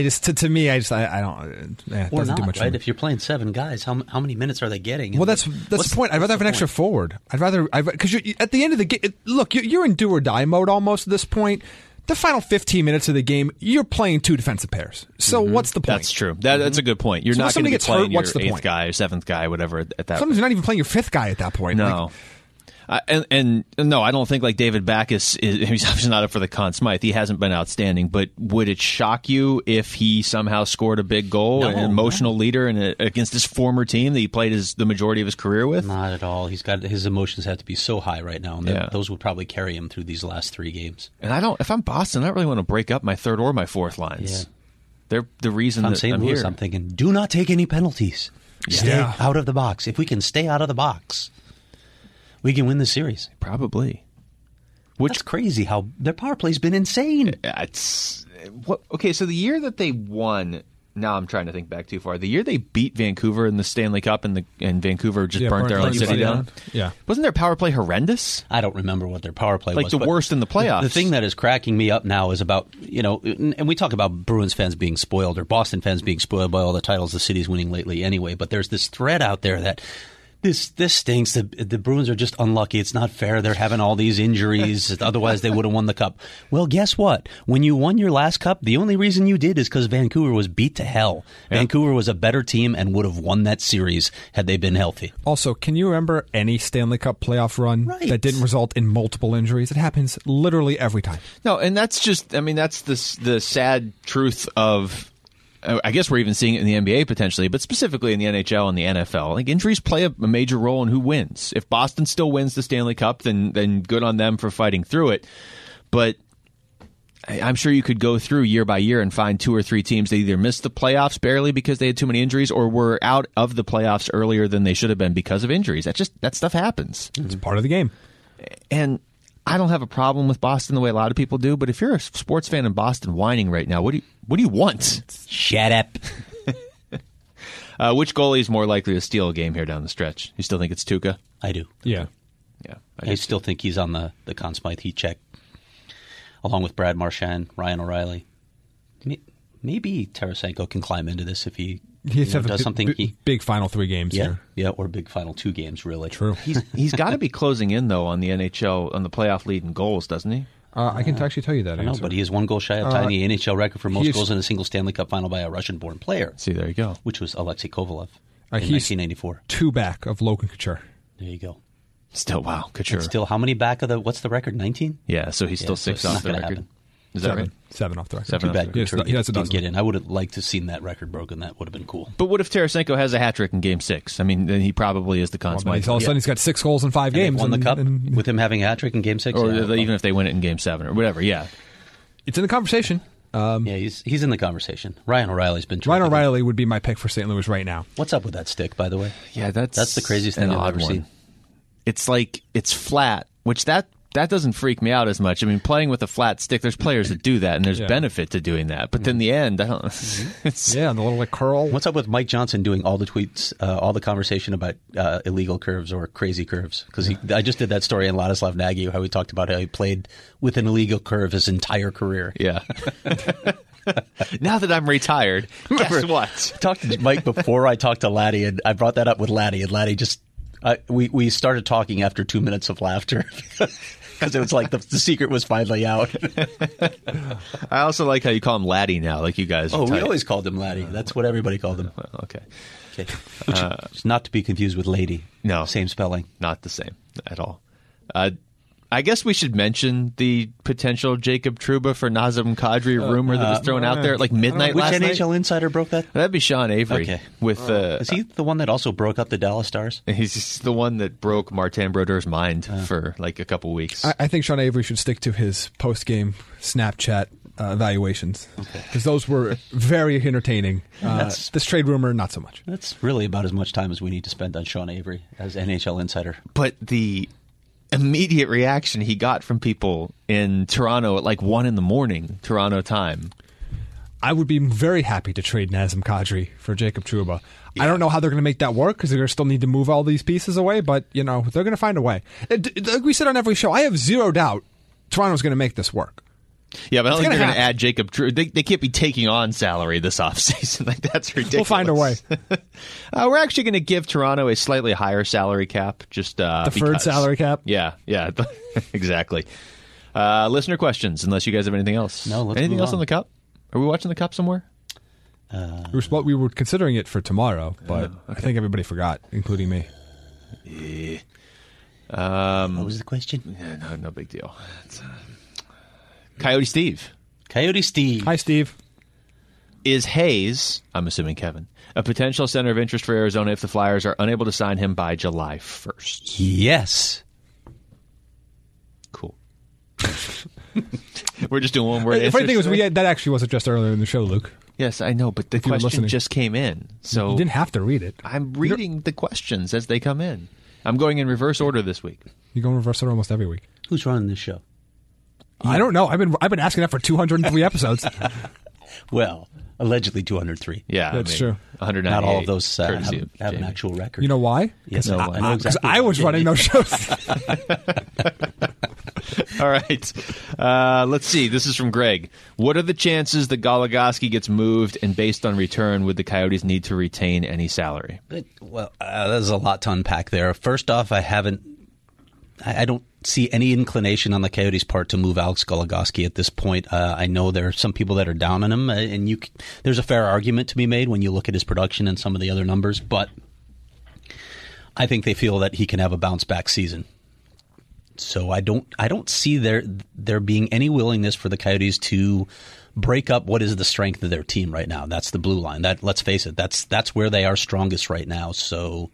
don't. It Or doesn't not, do much. right? If you're playing 7 guys, how many minutes are they getting? Well, that's the point. I'd rather have an extra forward. Because at the end of the game, look, you're in do or die mode almost at this point. The final 15 minutes of the game, you're playing 2 defensive pairs. So what's the point? That's true. That's a good point. You're So not going to be playing your 8th guy or 7th guy, whatever. At that, sometimes you're not even playing your 5th guy at that point. No. And no, I don't think like David Backes he's obviously not up for the Conn Smythe. He hasn't been outstanding, but would it shock you if he somehow scored a big goal, an emotional leader against his former team that he played the majority of his career with? Not at all. His emotions have to be so high right now, and those would probably carry him through these last 3 games. And if I'm Boston, I don't really want to break up my 3rd or my 4th lines. Yeah. They're the reason that St. I'm Louis, here. I'm thinking, do not take any penalties. Stay out of the box. If we can stay out of the box, we can win the series. Probably. That's crazy how their power play's been insane. Okay, so the year that they won, Now I'm trying to think back too far. The year they beat Vancouver in the Stanley Cup and Vancouver just burnt their own city down. Yeah. Wasn't their power play horrendous? I don't remember what their power play was. Like the worst in the playoffs. The thing that is cracking me up now is about, and we talk about Bruins fans being spoiled or Boston fans being spoiled by all the titles the city's winning lately anyway, but there's this thread out there that this stinks. The Bruins are just unlucky. It's not fair. They're having all these injuries. Otherwise, they would have won the cup. Well, guess what? When you won your last cup, the only reason you did is because Vancouver was beat to hell. Yeah. Vancouver was a better team and would have won that series had they been healthy. Also, can you remember any Stanley Cup playoff run that didn't result in multiple injuries? It happens literally every time. No, and that's just, I mean, that's the sad truth of, I guess we're even seeing it in the NBA potentially, but specifically in the NHL and the NFL. Like, injuries play a major role in who wins. If Boston still wins the Stanley Cup, then good on them for fighting through it. But I'm sure you could go through year by year and find 2 or 3 teams that either missed the playoffs barely because they had too many injuries or were out of the playoffs earlier than they should have been because of injuries. That stuff happens. It's part of the game. And I don't have a problem with Boston the way a lot of people do, but if you're a sports fan in Boston whining right now, what do you want? Shut up. Which goalie is more likely to steal a game here down the stretch? You still think it's Tuukka? I do. Yeah. I still think he's on the Conn Smythe heat check, along with Brad Marchand, Ryan O'Reilly. Maybe Tarasenko can climb into this if he does something. Big final 3 games here. Yeah, or big final 2 games, really. True. He's got to be closing in, though, on the NHL, on the playoff lead in goals, doesn't he? I can actually tell you that answer. No, but he is 1 goal shy of tying the NHL record for most goals in a single Stanley Cup final by a Russian-born player. See, there you go. Which was Alexei Kovalev in he's 1994. 2 back of Logan Couture. There you go. Still, wow, Couture. And still, how many back of what's the record, 19? Yeah, so he's still 6 off the record. Happen. Is that right? 7 off the record. 7 Too bad Couture didn't get in. I would have liked to have seen that record broken. That would have been cool. But what if Tarasenko has a hat trick in Game 6? I mean, then he probably is the Conn Smythe. All of a sudden, he's got 6 goals in 5 games. Won the cup with him having a hat trick in Game 6? Or even if they win it in Game 7 or whatever, yeah. It's in the conversation. Yeah, he's in the conversation. Ryan O'Reilly's been terrific. Ryan O'Reilly would be my pick for St. Louis right now. What's up with that stick, by the way? Yeah, that's the craziest thing I've ever seen. It's like, it's flat, which that doesn't freak me out as much. I mean, playing with a flat stick, there's players that do that, and there's benefit to doing that. But in the end, I don't. The little curl. What's up with Mike Johnson doing all the tweets, all the conversation about illegal curves or crazy curves? Because I just did that story on Ladislav Nagy, how he talked about how he played with an illegal curve his entire career. Yeah. Now that I'm retired, guess what? I talked to Mike before I talked to Laddie, and I brought that up with Laddie, and Laddie just. We started talking after 2 minutes of laughter because it was like the secret was finally out. I also like how you call him Laddie now, like you guys. We always called him Laddie. That's what everybody called him. Well, okay. Which is not to be confused with lady. No, same spelling. Not the same at all. I guess we should mention the potential Jacob Trouba for Nazem Kadri rumor that was thrown out there at like midnight last night. Which NHL insider broke that? That'd be Sean Avery. Okay. Is he the one that also broke up the Dallas Stars? He's the one that broke Martin Brodeur's mind for like a couple weeks. I think Sean Avery should stick to his post-game Snapchat evaluations because those were very entertaining. This trade rumor, not so much. That's really about as much time as we need to spend on Sean Avery as NHL insider. But the immediate reaction he got from people in Toronto at like 1 a.m. Toronto time. I would be very happy to trade Nazem Kadri for Jacob Trouba. Yeah. I don't know how they're going to make that work because they're going to still need to move all these pieces away, but they're going to find a way. Like we said on every show, I have zero doubt Toronto's going to make this work. Yeah, but I don't think they're going to add Jacob Trouba. They can't be taking on salary this offseason. Like, that's ridiculous. We'll find a way. We're actually going to give Toronto a slightly higher salary cap. Just deferred salary cap? Yeah, exactly. Listener questions, unless you guys have anything else. No, let's anything move else on. on the Cup? Are we watching the Cup somewhere? We were considering it for tomorrow, but I think everybody forgot, including me. Yeah. What was the question? Yeah, no big deal. It's, Coyote Steve. Hi, Steve. Is Hayes, I'm assuming Kevin, a potential center of interest for Arizona if the Flyers are unable to sign him by July 1st? Yes. Cool. We're just doing one word answers. The funny thing was, that actually was addressed earlier in the show, Luke. Yes, I know, but the question just came in. So you didn't have to read it. I'm reading the questions as they come in. I'm going in reverse order this week. You go in reverse order almost every week. Who's running this show? I don't know. I've been asking that for 203 episodes. Well, allegedly 203. Yeah, That's true. 198. Not all of those courtesy of have an Jamie. actual record. You know why? Yes, No, I know Because exactly. I was running those shows. All right. Let's see. This is from Greg. What are the chances that Goligoski gets moved, and based on return, would the Coyotes need to retain any salary? Well, there's a lot to unpack there. First off, I don't see any inclination on the Coyotes' part to move Alex Goligoski at this point. I know there are some people that are down on him, and there's a fair argument to be made when you look at his production and some of the other numbers, but I think they feel that he can have a bounce-back season. So I don't see there being any willingness for the Coyotes to break up what is the strength of their team right now. That's the blue line. That, let's face it, that's where they are strongest right now. So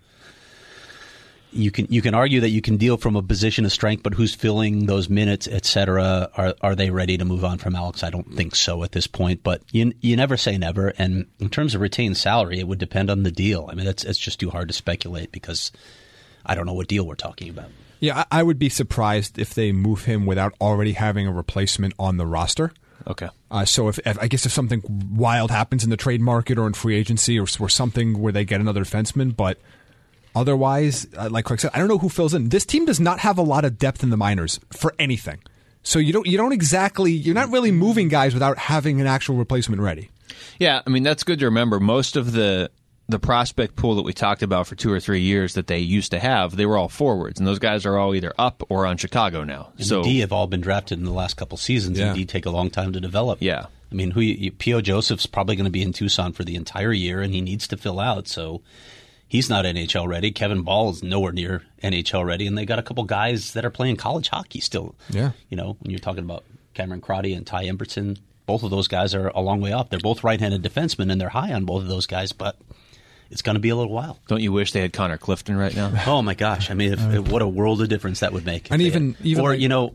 you can argue that you can deal from a position of strength, but who's filling those minutes, etc. Are they ready to move on from Alex? I don't think so at this point. But you never say never. And in terms of retained salary, it would depend on the deal. I mean, it's just too hard to speculate because I don't know what deal we're talking about. Yeah, I would be surprised if they move him without already having a replacement on the roster. Okay. So if I guess if something wild happens in the trade market or in free agency or something where they get another defenseman, but otherwise, like Craig said, I don't know who fills in. This team does not have a lot of depth in the minors for anything. So you're not really moving guys without having an actual replacement ready. Yeah, I mean, that's good to remember. Most of the prospect pool that we talked about for 2 or 3 years that they used to have, they were all forwards, and those guys are all either up or on Chicago now. And the D have all been drafted in the last couple seasons, and D take a long time to develop. Yeah. I mean, P.O. Joseph's probably going to be in Tucson for the entire year, and he needs to fill out, so he's not NHL ready. Kevin Ball is nowhere near NHL ready, and they got a couple guys that are playing college hockey still. Yeah. You know, when you're talking about Cameron Crotty and Ty Emberson, both of those guys are a long way off. They're both right-handed defensemen, and they're high on both of those guys, but it's going to be a little while. Don't you wish they had Connor Clifton right now? Oh my gosh! I mean, what a world of difference that would make. And even or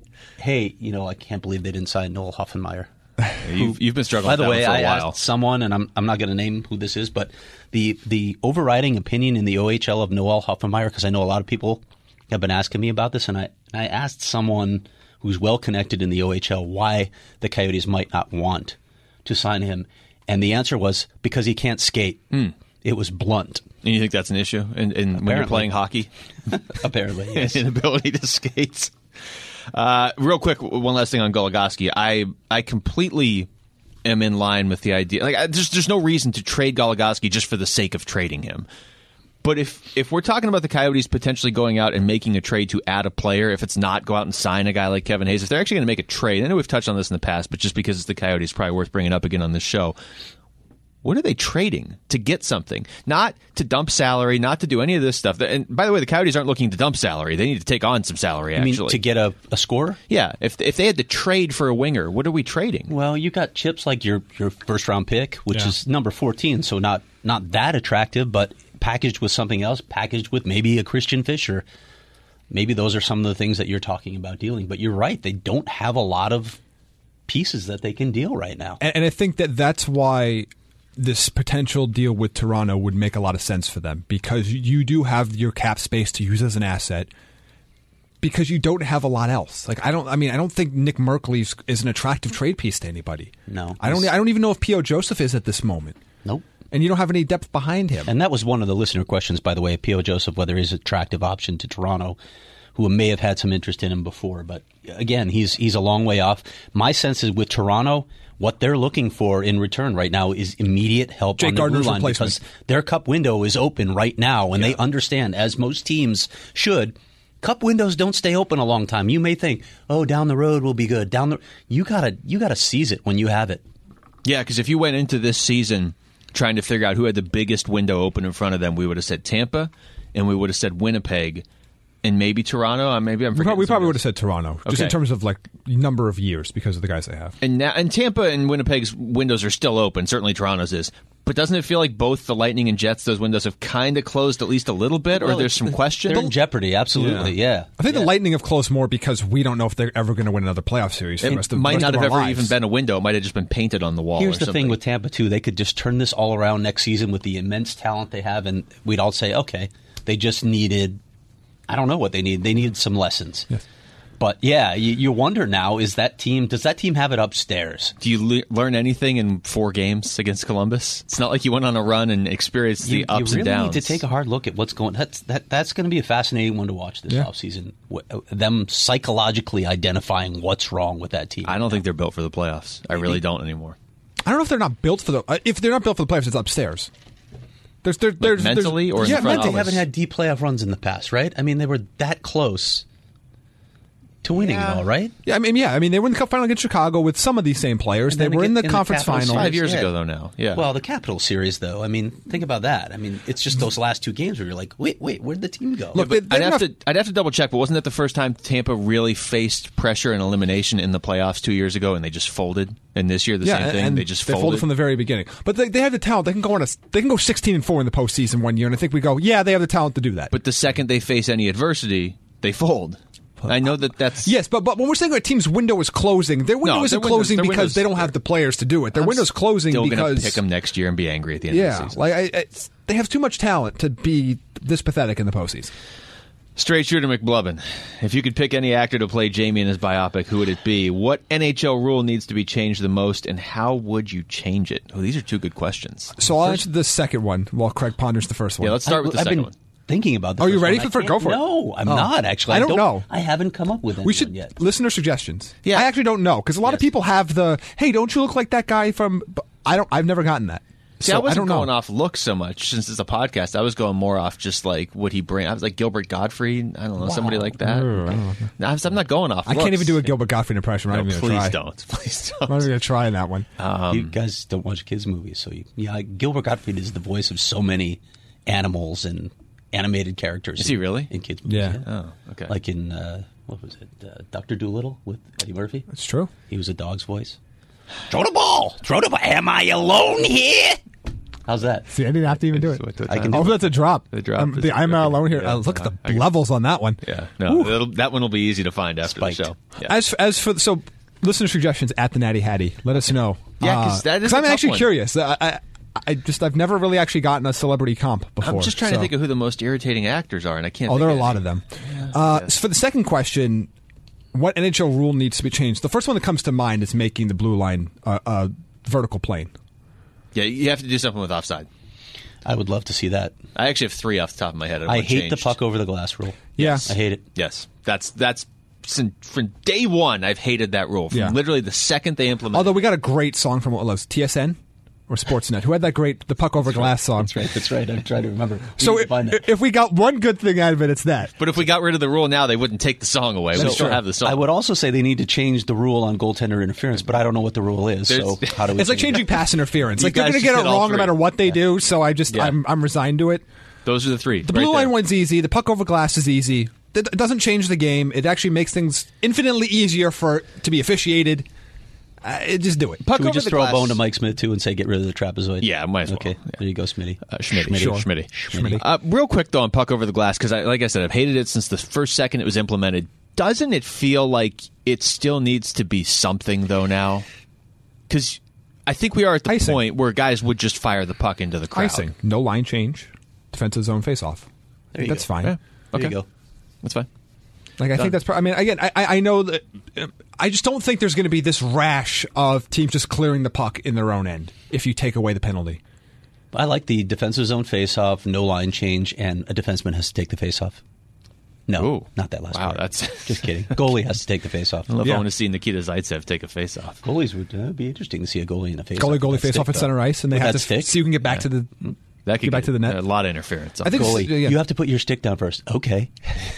like, I can't believe they didn't sign Noel Hoffenmeyer. You've been struggling By the with that way, one for a I while. asked someone, and I'm not going to name who this is, but the overriding opinion in the OHL of Noel Hoffenmeyer, because I know a lot of people have been asking me about this, and I asked someone who's well connected in the OHL why the Coyotes might not want to sign him, and the answer was because he can't skate. It was blunt. And you think that's an issue? And when you're playing hockey? Apparently, yes. Inability to skate. Real quick, one last thing on Goligoski. I completely am in line with the idea. Like, there's no reason to trade Goligoski just for the sake of trading him. But if we're talking about the Coyotes potentially going out and making a trade to add a player, if it's not go out and sign a guy like Kevin Hayes, if they're actually going to make a trade, I know we've touched on this in the past, but just because it's the Coyotes, probably worth bringing up again on this show. What are they trading to get something? Not to dump salary, not to do any of this stuff. And by the way, the Coyotes aren't looking to dump salary. They need to take on some salary, actually. You mean to get a scorer? Yeah. If they had to trade for a winger, what are we trading? Well, you got chips like your first-round pick, which is number 14, so not that attractive, but packaged with something else, packaged with maybe a Christian Fischer. Maybe those are some of the things that you're talking about dealing. But you're right. They don't have a lot of pieces that they can deal right now. And I think that's why this potential deal with Toronto would make a lot of sense for them, because you do have your cap space to use as an asset because you don't have a lot else. Like I don't think Nick Merkley is an attractive trade piece to anybody. No. I don't even know if P.O. Joseph is at this moment. Nope. And you don't have any depth behind him. And that was one of the listener questions, by the way, P.O. Joseph, whether he's an attractive option to Toronto, who may have had some interest in him before. But again, he's a long way off. My sense is with Toronto, what they're looking for in return right now is immediate help Jake on the blue Gardner's line, replacement. because their cup window is open right now, and they understand, as most teams should, cup windows don't stay open a long time. You may think, down the road will be good. You gotta seize it when you have it. Yeah, because if you went into this season trying to figure out who had the biggest window open in front of them, we would have said Tampa, and we would have said Winnipeg, and maybe Toronto. Maybe I'm forgetting. We probably would have said Toronto, just in Okay. terms of like number of years because of the guys they have. And Tampa and Winnipeg's windows are still open. Certainly Toronto's is. But doesn't it feel like both the Lightning and Jets, those windows have kind of closed at least a little bit, or there's some question? They're in jeopardy, absolutely, yeah. I think the Lightning have closed more because we don't know if they're ever going to win another playoff series. For the rest It of, might rest not of have our ever lives. even been a window. It might have just been painted on the wall. Here's or the something. thing with Tampa, too. They could just turn this all around next season with the immense talent they have, and we'd all say, okay, they just needed, I don't know what they needed. They needed some lessons. Yes. But yeah, you wonder now, does that team have it upstairs? Do you learn anything in 4 games against Columbus? It's not like you went on a run and experienced the ups you and really downs. need to take a hard look at what's going. That's going to be a fascinating one to watch this offseason. Them psychologically identifying what's wrong with that team. I don't think they're built for the playoffs. I really don't anymore. I don't know if they're not built for if they're not built for the playoffs, it's upstairs. There's mentally or in the front they office? haven't had deep playoff runs in the past, right? I mean, they were that close to winning it all, right? Yeah, I mean, they were in the Cup final against Chicago with some of these same players. And They then were in the in the conference Capitals final 5 years ago, though. Now, yeah. Well, the Capital Series, though. I mean, think about that. I mean, it's just those last 2 games where you're like, wait, where'd the team go? Look, I'd have to double check, but wasn't that the first time Tampa really faced pressure and elimination in the playoffs 2 years ago, and they just folded? And this year, the same thing. And They just folded from the very beginning. But they have the talent. They can go 16-4 in the postseason one year, and I think we go, yeah, they have the talent to do that. But the second they face any adversity, they fold. I know that's... Yes, but when we're saying our team's window is closing, their window isn't closing because they don't have the players to do it. Their window's closing still because... going to pick them next year and be angry at the end of the season. They have too much talent to be this pathetic in the postseason. Straight shooter McBlubbin, if you could pick any actor to play Jamie in his biopic, who would it be? What NHL rule needs to be changed the most, and how would you change it? Oh, these are 2 good questions. So I'll answer the second one while Craig ponders the first one. Yeah, let's start with the second one. Thinking about this. Are you ready for it? Go for it. No, I'm not, actually. I don't know. I haven't come up with anyone We should yet. listener suggestions. Yeah. I actually don't know because a lot of people have the, hey, don't you look like that guy from... I've never gotten that. See, So I wasn't don't know. going off looks so much since it's a podcast. I was going more off just like what he bring. I was like Gilbert Gottfried. I don't know, somebody like that. I'm not going off. I can't even do a Gilbert Gottfried impression. I'm No, not even going to please try. don't. Please I'm not don't. even going to try in that one. You guys don't watch kids' movies, so Gilbert Gottfried is the voice of so many animals and animated characters. Is he really? in kids' movies? Yeah. Oh, okay. Like in what was it, Dr. Dolittle with Eddie Murphy? It's true. He was a dog's voice. Throw the ball. Throw the ball. Am I alone here? How's that? See, I didn't have to even do it. I can Oh, do it. that's a drop. The drop is- I'm not alone here. yeah, Look at I the levels on that one. Yeah, no, that one will be easy to find after Spiked. the show. Yeah. As for listener suggestions at the Natty Hattie, let us know. Yeah, 'cause that is a I'm tough actually one. curious. I've never really actually gotten a celebrity comp before. I'm just trying to think of who the most irritating actors are, and I can't. Oh, think there are a of lot any. of them. So for the second question, what NHL rule needs to be changed? The first one that comes to mind is making the blue line a vertical plane. Yeah, you have to do something with offside. I would love to see that. I actually have 3 off the top of my head. I hate the puck over the glass rule. Yeah. I hate it. Yes, that's from day one. I've hated that rule. From Yeah. literally the second they implemented. Although we got a great song from what was TSN or Sportsnet, who had that great "The Puck Over Glass" song. That's right. I'm trying to remember. So if we got one good thing out of it, it's that. But if we got rid of the rule now, they wouldn't take the song away. We still have the song. I would also say they need to change the rule on goaltender interference, but I don't know what the rule is. So There's- how do we? It's like change changing pass interference. You Like they're guys going to just get it hit all wrong no three. matter what they do. So I'm Yeah. resigned to it. Those are the 3. The blue line one's easy. The puck over glass is easy. It doesn't change the game. It actually makes things infinitely easier for to be officiated. Just do it. Puck Can we over just the throw glass. a bone to Mike Smith too and say get rid of the trapezoid? Yeah, might as well. Okay, Yeah. there you go, Smitty. Schmitty. Real quick though on puck over the glass because like I said, I've hated it since the first second it was implemented. Doesn't it feel like it still needs to be something though now? Because I think we are at the Icing. point where guys would just fire the puck into the crowd. Icing. No line change. Defensive zone face off. There you That's go. fine. Yeah. There Okay. you go. That's fine. Like I think that's. I mean, again, I know that. I just don't think there's going to be this rash of teams just clearing the puck in their own end if you take away the penalty. I like the defensive zone face-off, no line change, and a defenseman has to take the face-off. No, Ooh. not that last Wow, part. that's- just kidding. Goalie has to take the face-off. I love Yeah. want to see Nikita Zaitsev take a face-off. Goalies would be interesting to see a goalie in a face-off. Goalie with that face off stick, at center though. ice, and they With have that to stick? see who can get back to the. That could Get back to the net. A lot of interference. I think it's- Goalie, yeah. you have to put your stick down first. Okay.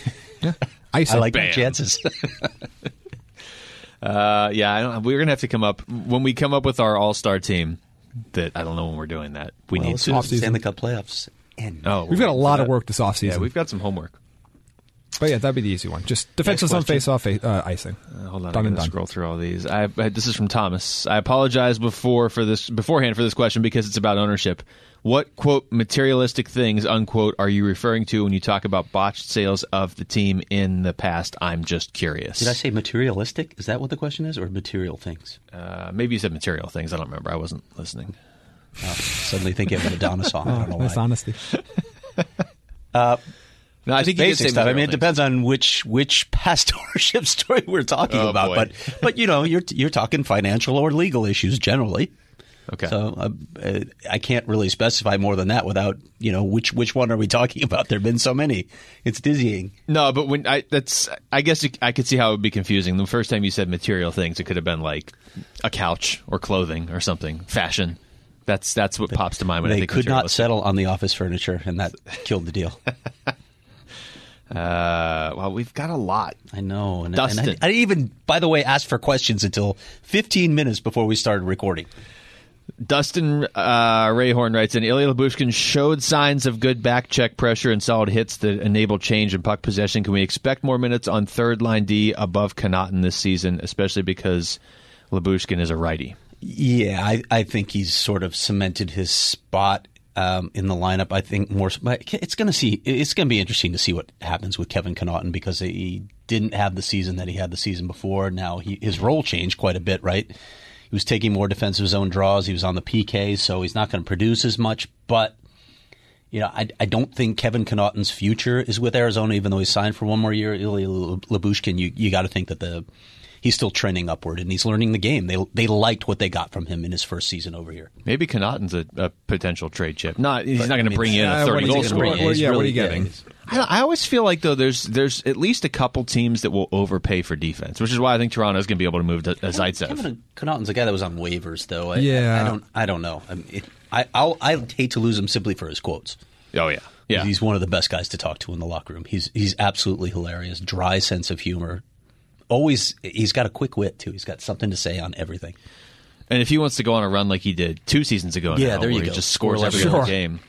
Icing. I like my Bam. chances. We're gonna have to come up when we come up with our all-star team. That I don't know when we're doing that. We Well, need as soon as the Offseason. Stanley Cup playoffs end. Oh, We've got a lot of work this offseason. Yeah, we've got some homework. But yeah, that'd be the easy one. Just defensive zone face off icing. Hold on, Done I'm and going to done. scroll through all these. This is from Thomas. I apologize beforehand for this question because it's about ownership. What, quote, materialistic things, unquote, are you referring to when you talk about botched sales of the team in the past? I'm just curious. Did I say materialistic? Is that what the question is, or material things? Maybe you said material things. I don't remember. I wasn't listening. Suddenly thinking of an Madonna song. I don't know Nice why. honesty. No, I think you did basic say stuff. I mean, material it depends on which past ownership story we're talking Oh, about. boy. But you're talking financial or legal issues generally. Okay. So I can't really specify more than that without which one are we talking about? There've been so many, it's dizzying. No, but I guess I could see how it would be confusing. The first time you said material things, it could have been like a couch or clothing or something, fashion. That's what pops to mind when I They think could not materialistic. settle on the office furniture, and that killed the deal. Well, we've got a lot. I know. And Dustin. I didn't even, by the way, ask for questions until 15 minutes before we started recording. Dustin Rayhorn writes in, Ilya Lyubushkin showed signs of good back check pressure and solid hits that enable change in puck possession. Can we expect more minutes on third line D above Connaughton this season, especially because Lyubushkin is a righty? Yeah, I think he's sort of cemented his spot in the lineup. I think more. It's going to be interesting to see what happens with Kevin Connaughton because he didn't have the season that he had the season before. Now his role changed quite a bit, right? He was taking more defensive zone draws. He was on the PK, so he's not going to produce as much. But I don't think Kevin Connaughton's future is with Arizona, even though he's signed for one more year. Ilya Lyubushkin, you got to think that he's still trending upward, and he's learning the game. They liked what they got from him in his first season over here. Maybe Connaughton's a potential trade chip. He's not going to bring in a 30-goal scorer. what are you getting? I always feel like, though, there's at least a couple teams that will overpay for defense, which is why I think Toronto is going to be able to move to Zaitsev. Kevin Connaughton's a guy that was on waivers, though. I don't know. I hate to lose him simply for his quotes. Oh, yeah. Yeah. He's one of the best guys to talk to in the locker room. He's absolutely hilarious, dry sense of humor. Always, he's got a quick wit, too. He's got something to say on everything. And if he wants to go on a run like he did 2 seasons ago Yeah, now, there you where he go. just scores Score every like- other Sure. game.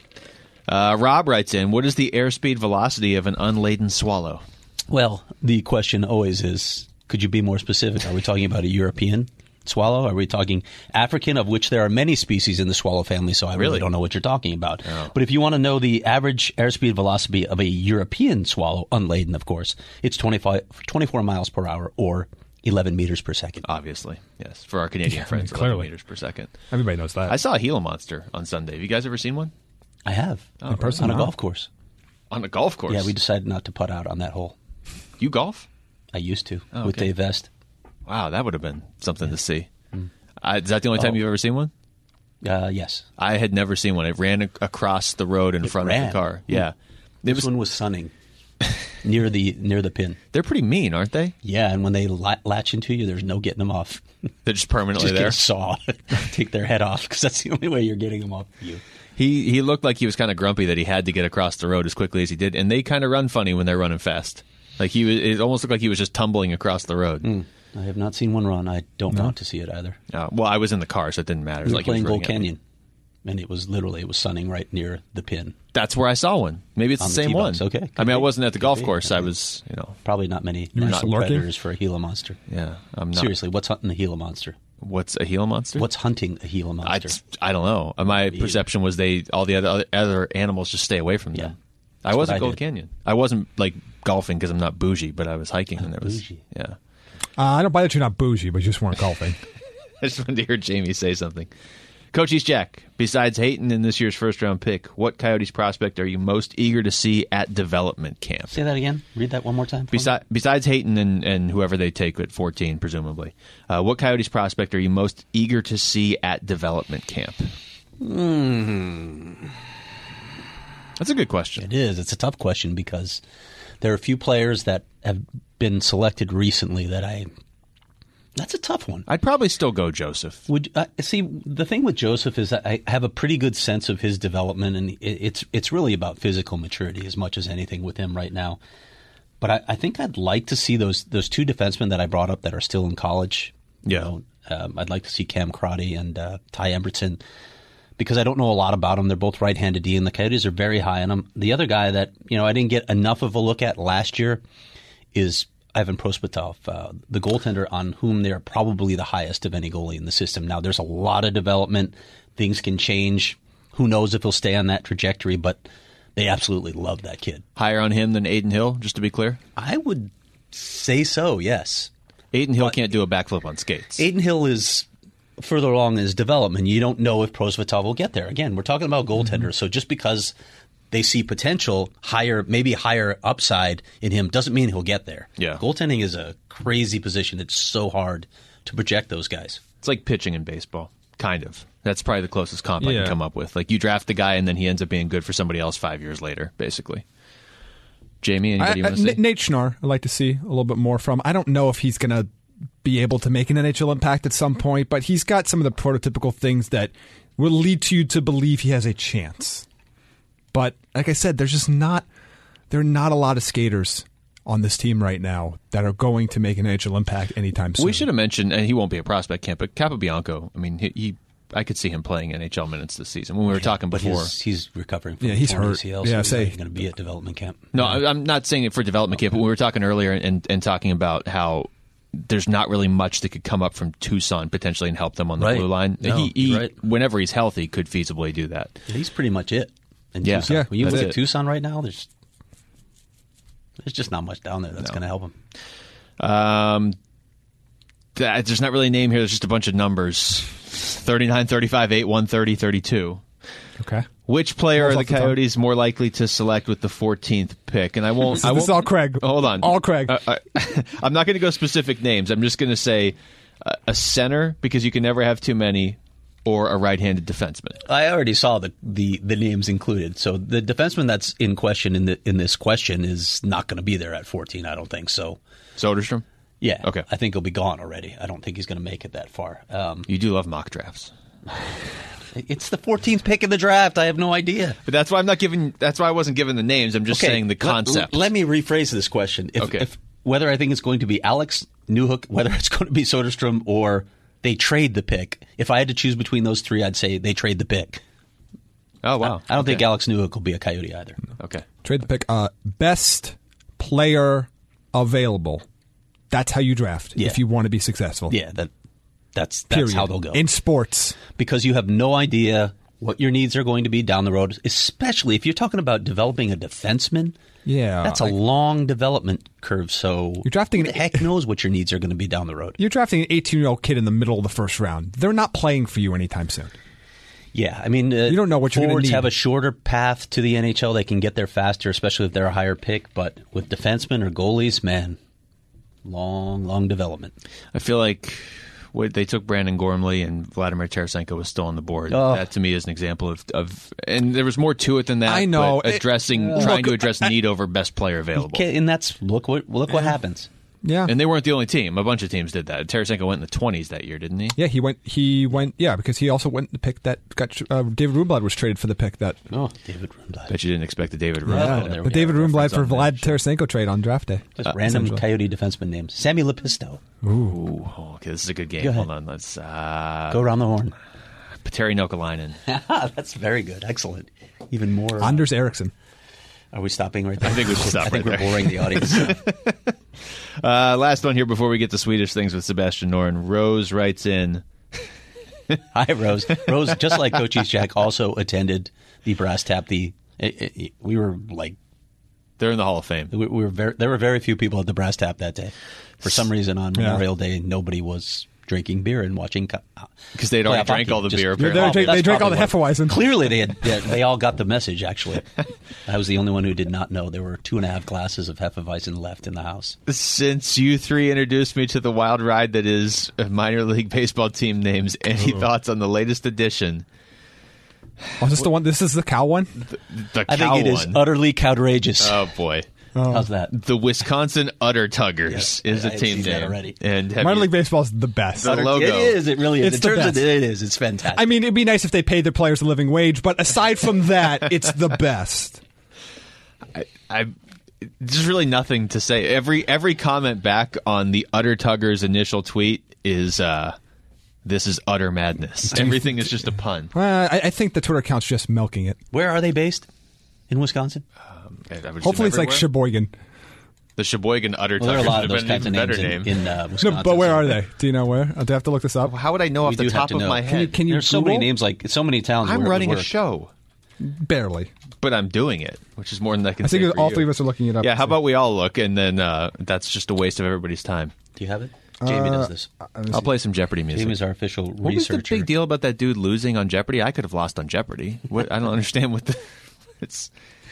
Rob writes in, what is the airspeed velocity of an unladen swallow? Well, the question always is, could you be more specific? Are we talking about a European swallow? Are we talking African, of which there are many species in the swallow family, so I really don't know what you're talking about. Oh. But if you want to know the average airspeed velocity of a European swallow, unladen, of course, it's 24 miles per hour or 11 meters per second. Obviously, yes. For our Canadian friends, 11 clearly. meters per second. Everybody knows that. I saw a Gila monster on Sunday. Have you guys ever seen one? I have. In person, On a no. golf course. On a golf course? Yeah, we decided not to putt out on that hole. You golf? I used to Oh, with okay. Dave Vest. Wow, that would have been something to see. Is that the only time you've ever seen one? Yes. I had never seen one. It ran across the road in front of ran? the car. Yeah. This one was sunning near the pin. They're pretty mean, aren't they? Yeah, and when they latch into you, there's no getting them off. They're just permanently Just get there. a saw, take their head off, because that's the only way you're getting them off you. He looked like he was kind of grumpy that he had to get across the road as quickly as he did, and they kind of run funny when they're running fast. Like it almost looked like he was just tumbling across the road. I have not seen one run. I don't want to see it either. Well, I was in the car, so it didn't matter. It was We were like he was playing Gold running at me. Canyon, and it was sunning right near the pin. That's where I saw one. Maybe it's On the the same tee one. box. Okay, I could mean, I be. wasn't at the Could golf be. course. Could I be. was, Probably not many were just lurking? predators for a Gila monster. yeah. I'm not. Seriously, what's hunting the Gila monster? What's a Gila monster? What's hunting a Gila monster? I don't know. My perception was all the other animals just stay away from them. Yeah. I was what at I Gold did. Canyon. I wasn't like golfing because I'm not bougie, but I was hiking and there was bougie. yeah. I don't buy that you're not bougie, but you just weren't golfing. I just wanted to hear Jamie say something. Coach East Jack, besides Hayton in this year's first-round pick, what Coyotes prospect are you most eager to see at development camp? Say that again. Read that one more time. for me. Besides Hayton and whoever they take at 14, presumably, what Coyotes prospect are you most eager to see at development camp? That's a good question. It is. It's a tough question because there are a few players that have been selected recently that's a tough one. I'd probably still go Joseph. Would see, the thing with Joseph is that I have a pretty good sense of his development, and it's really about physical maturity as much as anything with him right now. But I think I'd like to see those two defensemen that I brought up that are still in college. Yeah. I'd like to see Cam Crotty and Ty Embertson, because I don't know a lot about them. They're both right-handed D, and the Coyotes are very high on them. The other guy that I didn't get enough of a look at last year is Ivan Prospatov, the goaltender on whom they're probably the highest of any goalie in the system. Now, there's a lot of development. Things can change. Who knows if he'll stay on that trajectory, but they absolutely love that kid. Higher on him than Aiden Hill, just to be clear? I would say so, yes. Aiden Hill can't do a backflip on skates. Aiden Hill is further along in his development. You don't know if Prospatov will get there. Again, we're talking about goaltenders, so just because they see potential, maybe higher upside in him, doesn't mean he'll get there. Yeah. Goaltending is a crazy position. It's so hard to project those guys. It's like pitching in baseball, kind of. That's probably the closest comp I Yeah. can come up with. Like, you draft the guy, and then he ends up being good for somebody else 5 years later, basically. Jamie, anybody you want to say? Nate Schnarr, I'd like to see a little bit more from. I don't know if he's going to be able to make an NHL impact at some point, but he's got some of the prototypical things that will lead you to believe he has a chance. But like I said, there are not a lot of skaters on this team right now that are going to make an NHL impact anytime soon. We should have mentioned, and he won't be a prospect camp, but Capobianco, I mean, I could see him playing NHL minutes this season. When we were talking But before. he's recovering from he's torn hurt. ACL, Yeah, so he's say- going to be at development camp. No, I'm not saying it for development camp, but we were talking earlier and talking about how there's not really much that could come up from Tucson potentially and help them on the Right. blue line. No, he right. whenever he's healthy, could feasibly do that. He's pretty much it. In Yeah. Tucson. Yeah, When you that's look it. at Tucson right now, there's just not much down there that's going to help him. There's not really a name here. There's just a bunch of numbers. 39, 35, 8, 1, 30, 32. Okay. Which player Rolls are the off the tongue. Coyotes more likely to select with the 14th pick? And I won't. This is all Craig. Hold on. All Craig. I'm not going to go specific names. I'm just going to say a center, because you can never have too many, or a right-handed defenseman. I already saw the names included. So the defenseman that's in question in this question is not going to be there at 14. I don't think so. Soderstrom? Yeah. Okay. I think he'll be gone already. I don't think he's going to make it that far. You do love mock drafts. It's the 14th pick in the draft. I have no idea. But that's why I wasn't giving the names. I'm just saying the concept. Let me rephrase this question. If whether I think it's going to be Alex Newhook, whether it's going to be Soderstrom, or they trade the pick. If I had to choose between those three, I'd say they trade the pick. Oh, wow. I don't think Alex Newhook will be a Coyote either. Okay. Trade the pick. Best player available. That's how you draft Yeah. if you want to be successful. Yeah, that's Period. how they'll go. In sports. Because you have no idea what your needs are going to be down the road, especially if you're talking about developing a defenseman. Yeah. That's a long development curve, so You're drafting who the heck knows what your needs are going to be down the road. You're drafting an 18-year-old kid in the middle of the first round. They're not playing for you anytime soon. Yeah, I mean, you don't know what you're gonna forwards need. have a shorter path to the NHL. They can get there faster, especially if they're a higher pick. But with defensemen or goalies, man, long development. I feel like they took Brandon Gormley and Vladimir Tarasenko was still on the board. Oh. That to me is an example of and there was more to it than that. I know. but trying to address need over best player available. Okay, and that's look what happens. Yeah. And they weren't the only team. A bunch of teams did that. Tarasenko went in the 20s that year, didn't he? Yeah, he went. Yeah, because he also went the pick that got David Rundblad was traded for the pick that. Oh, David Rundblad. Bet you didn't expect the David Yeah, Rundblad. there the we David go. Rundblad for Reference on Vlad that show. Tarasenko trade on draft day. Just random essentially. Coyote defenseman names. Sammy Lepisto. Ooh, okay, this is a good game. Go ahead. Hold on, let's Go around the horn. Terry Nokalainen. That's very good. Excellent. Even more. Anders Eriksson. Are we stopping right there? I think we should stop I think right we're there. boring the audience. Last one here before we get to Swedish things with Sebastian Noren. Rose writes in. Hi, Rose. Rose, just like Coach Jack, also attended the brass tap. We were like, They're in the Hall of Fame. there were very few people at the brass tap that day. For some reason, on Memorial Day, nobody was drinking beer and watching Because they'd already playoff drank hockey. all the Just- beer, They apparently. drank- That's all the probably what- Hefeweizen. Clearly, they all got the message. Actually, I was the only one who did not know there were 2.5 glasses of Hefeweizen left in the house. Since you three introduced me to the wild ride that is minor league baseball team names, any thoughts on the latest edition? Oh, is this the one? This is the cow one. The I cow think it is one. utterly outrageous. Oh, boy. How's that? The Wisconsin Udder Tuggers is I a had team seen that name. already. And have Minor you- league baseball is the best. The logo. It is. It really is. It's In the terms of best. it is. It's fantastic. I mean, it'd be nice if they paid their players a living wage, but aside from that, it's the best. There's really nothing to say. Every comment back on the Udder Tuggers initial tweet is this is utter madness. Everything is just a pun. I think the Twitter account's just milking it. Where are they based? In Wisconsin? I would assume Hopefully, it's like everywhere. Sheboygan. The Sheboygan Udder Well, there are a Tuggers lot would of have those been an kinds of even names better name. in Wisconsin. No, but where so- are they? Do you know where? Do I have to look this up? How would I know off We the do have top to of know. my head? Can you There's so many Google? names, like so many towns. I'm where it would running a work. show, Barely. but I'm doing it, which is more than I can I think say for all you. three of us are looking it up. Yeah, how about we all look, and then that's just a waste of everybody's time. Do you have it? Jamie does this. I'll play some Jeopardy music. Jamie's our official What was the researcher. big deal about that dude losing on Jeopardy? I could have lost on Jeopardy. What? I don't understand what the. It's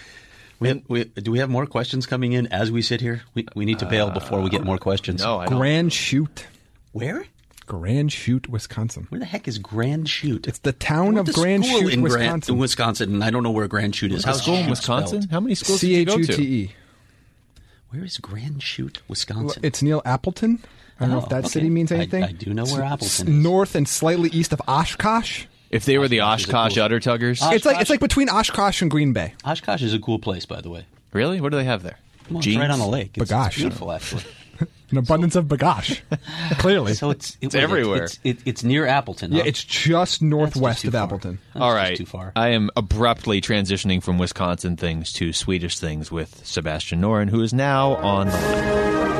Do we have more questions coming in as we sit here? We need to bail before we get more questions. No, I don't. Grand Chute. Where? Grand Chute, Wisconsin. Where the heck is Grand Chute? It's the town of Grand Chute, in Wisconsin. in Wisconsin, and I don't know where Grand Chute is. How's school in Chute Wisconsin? spelled? How many schools did you go to? Chute. Where is Grand Chute, Wisconsin? It's near Appleton. I don't know if that okay. city means anything. I do know where Appleton is. North and slightly east of Oshkosh. If they were the Oshkosh is a Oshkosh cool- Udder Tuggers. It's like between Oshkosh and Green Bay. Oshkosh is a cool place, by the way. Really? What do they have there? Well, it's Jeans? right on the lake. It's Bagash. beautiful, actually. An abundance of bagash. Clearly. So it's everywhere. It's near Appleton. Yeah, huh? it's just northwest too of far. Appleton. That's All just right. too far. I am abruptly transitioning from Wisconsin things to Swedish things with Sebastian Noren, who is now on the line.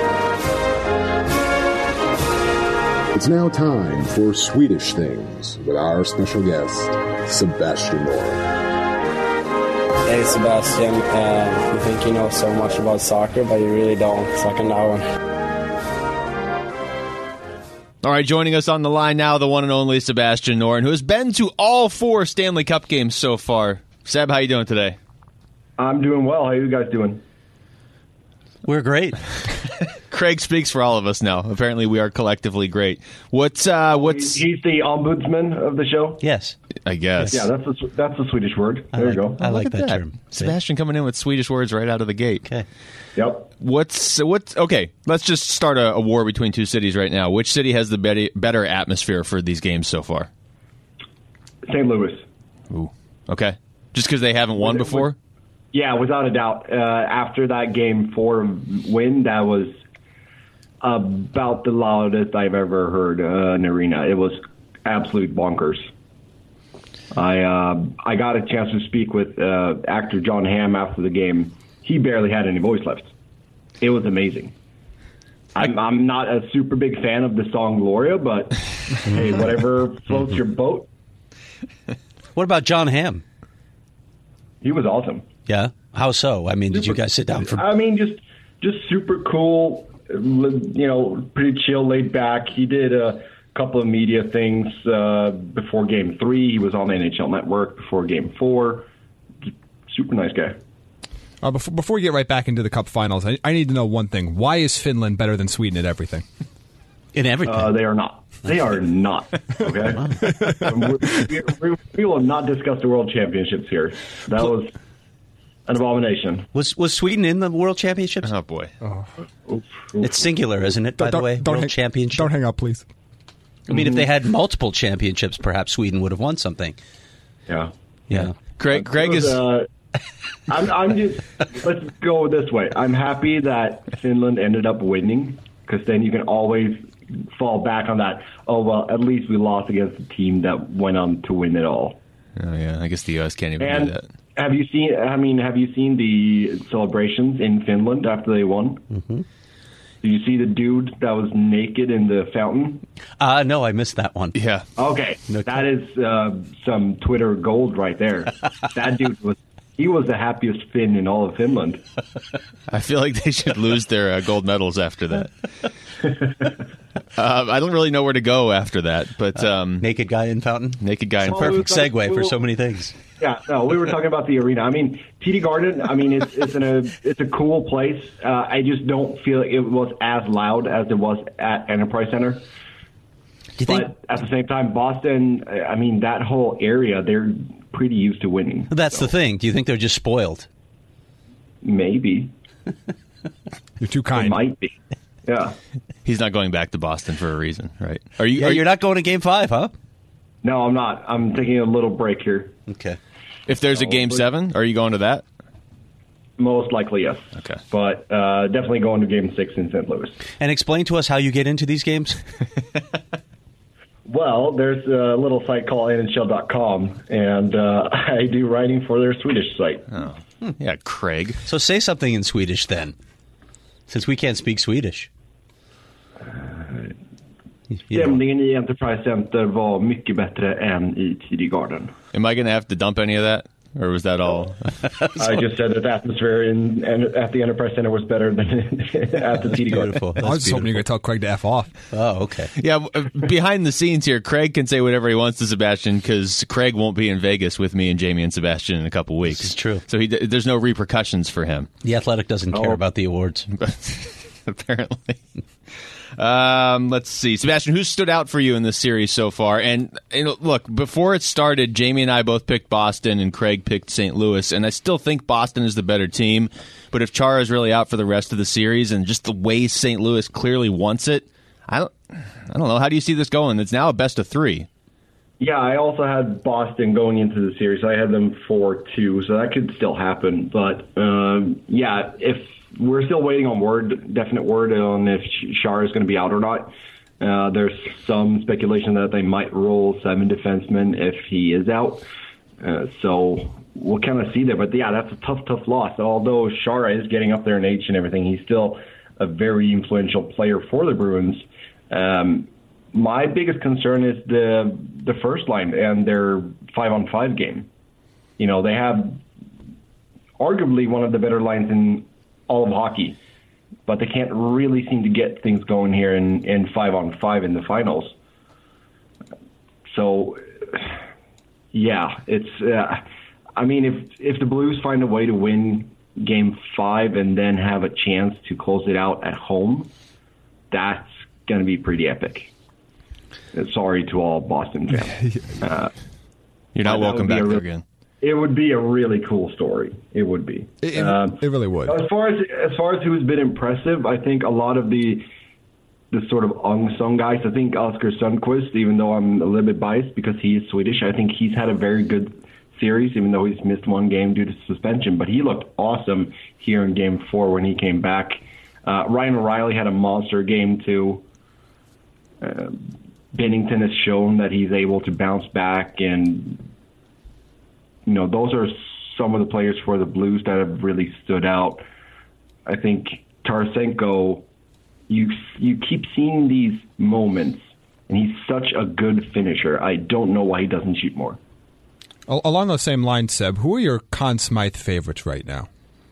It's now time for Swedish Things with our special guest, Sebastian Noren. Hey Sebastian, you think you know so much about soccer, but you really don't. Suck on that one. All right, joining us on the line now, the one and only Sebastian Noren, who has been to all 4 Stanley Cup games so far. Seb, how you doing today? I'm doing well. How are you guys doing? We're great. Craig speaks for all of us now. Apparently, we are collectively great. What's He's the ombudsman of the show. Yes. I guess. Yeah, that's a Swedish word. There you go. I like Look at that term. Sebastian coming in with Swedish words right out of the gate. Okay. Yep. What's okay? Let's just start a war between 2 cities right now. Which city has the better atmosphere for these games so far? St. Louis. Ooh. Okay. Just because they haven't won before? Yeah, without a doubt. After that Game 4 win, that was about the loudest I've ever heard an arena. It was absolute bonkers. I got a chance to speak with actor John Hamm after the game. He barely had any voice left. It was amazing. I'm not a super big fan of the song Gloria, but hey, whatever floats your boat. What about John Hamm? He was awesome. Yeah. How so? I mean, did you guys sit down for? I mean, just super cool. You know, pretty chill, laid back. He did a couple of media things before Game 3. He was on the NHL Network before Game 4. Super nice guy. Before we get right back into the Cup Finals, I need to know one thing. Why is Finland better than Sweden at everything? In everything. They are not. They are not. Okay? we will not discuss the World Championships here. That was an abomination. Was Sweden in the World Championships? Oh, boy. It's singular, isn't it, by the way? World Championship. Don't hang up, please. I mean, if they had multiple championships, perhaps Sweden would have won something. Yeah. Yeah. Greg is... I'm just, let's go this way. I'm happy that Finland ended up winning, because then you can always fall back on that, oh, well, at least we lost against a team that went on to win it all. Oh, yeah. I guess the U.S. can't even do And that. have you seen the celebrations in Finland after they won? Mm-hmm. Did you see the dude that was naked in the fountain? No, I missed that one. Yeah. Okay, that is some Twitter gold right there. That dude was the happiest Finn in all of Finland. I feel like they should lose their gold medals after that. I don't really know where to go after that, but Naked guy in fountain. naked guy in Well, perfect. Perfect segue for so many things. Yeah, no, we were talking about the arena. I mean, TD Garden. I mean, it's a cool place. I just don't feel like it was as loud as it was at Enterprise Center. Do you think But at the same time, Boston. I mean, that whole area, they're pretty used to winning. that's the thing? Do you think they're just spoiled? Maybe You're too it kind. might be. Yeah. He's not going back to Boston for a reason, right? Are Yeah, you? you're not going to Game 5, huh? No, I'm not. I'm taking a little break here. Okay. If there's a Game 7, are you going to that? Most likely, yes. Okay. But definitely going to Game 6 in St. Louis. And explain to us how you get into these games. Well, there's a little site called NHL.com, and I do writing for their Swedish site. Oh, yeah, Craig. So say something in Swedish then, since we can't speak Swedish. You know. Stämningen i Enterprise Center var mycket bättre än i TD Garden. Am I going to have to dump any of that? Or was that all? I just said that the atmosphere at the Enterprise Center was better than at the TD Garden. Beautiful. I was just hoping you could tell Craig to F off. Oh, okay. Yeah, behind the scenes here, Craig can say whatever he wants to Sebastian because Craig won't be in Vegas with me and Jamie and Sebastian in a couple weeks. This is true. So there's no repercussions for him. The Athletic doesn't care about the awards. Apparently. Let's see. Sebastian, who stood out for you in this series so far? And look, before it started, Jamie and I both picked Boston and Craig picked St. Louis, and I still think Boston is the better team. But if Chara is really out for the rest of the series and just the way St. Louis clearly wants it, I don't know. How do you see this going? It's now a best of 3. Yeah, I also had Boston going into the series. I had them 4-2, so that could still happen. But, yeah, if we're still waiting on definite word on if Chara is going to be out or not. There's some speculation that they might roll 7 defensemen if he is out. So we'll kind of see there. But, yeah, that's a tough loss. Although Chara is getting up there in age and everything, he's still a very influential player for the Bruins. My biggest concern is the first line and their 5-on-5 game. You know, they have arguably one of the better lines in all of hockey, but they can't really seem to get things going here in 5-on-5 in the finals. So, yeah, it's. I mean, if the Blues find a way to win Game 5 and then have a chance to close it out at home, that's going to be pretty epic. Sorry to all Boston fans. You're not welcome back there again. It would be a really cool story. It would be. It really would. As far as who's been impressive, I think a lot of the sort of unsung guys. I think Oscar Sundqvist, even though I'm a little bit biased because he is Swedish, I think he's had a very good series, even though he's missed one game due to suspension. But he looked awesome here in Game 4 when he came back. Ryan O'Reilly had a monster game too. Bennington has shown that he's able to bounce back, and you know, those are some of the players for the Blues that have really stood out. I think Tarasenko, you keep seeing these moments, and he's such a good finisher. I don't know why he doesn't shoot more. Along those same lines, Seb, who are your Conn Smythe favorites right now?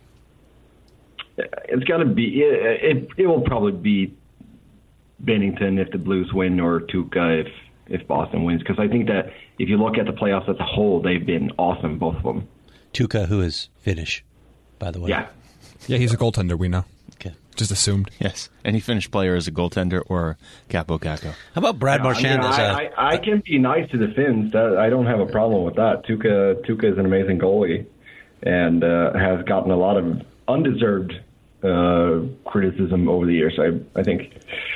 It's got to be. It will probably be Bennington if the Blues win, or Tuukka if Boston wins. Because I think that if you look at the playoffs as a whole, they've been awesome, both of them. Tuukka, who is Finnish, by the way. Yeah, he's a goaltender. We know. Okay. Just assumed. Yes, any Finnish player is a goaltender or Capo Caco. How about Brad Marchand? I can be nice to the Finns. I don't have a problem with that. Tuukka is an amazing goalie and has gotten a lot of undeserved criticism over the years, I think.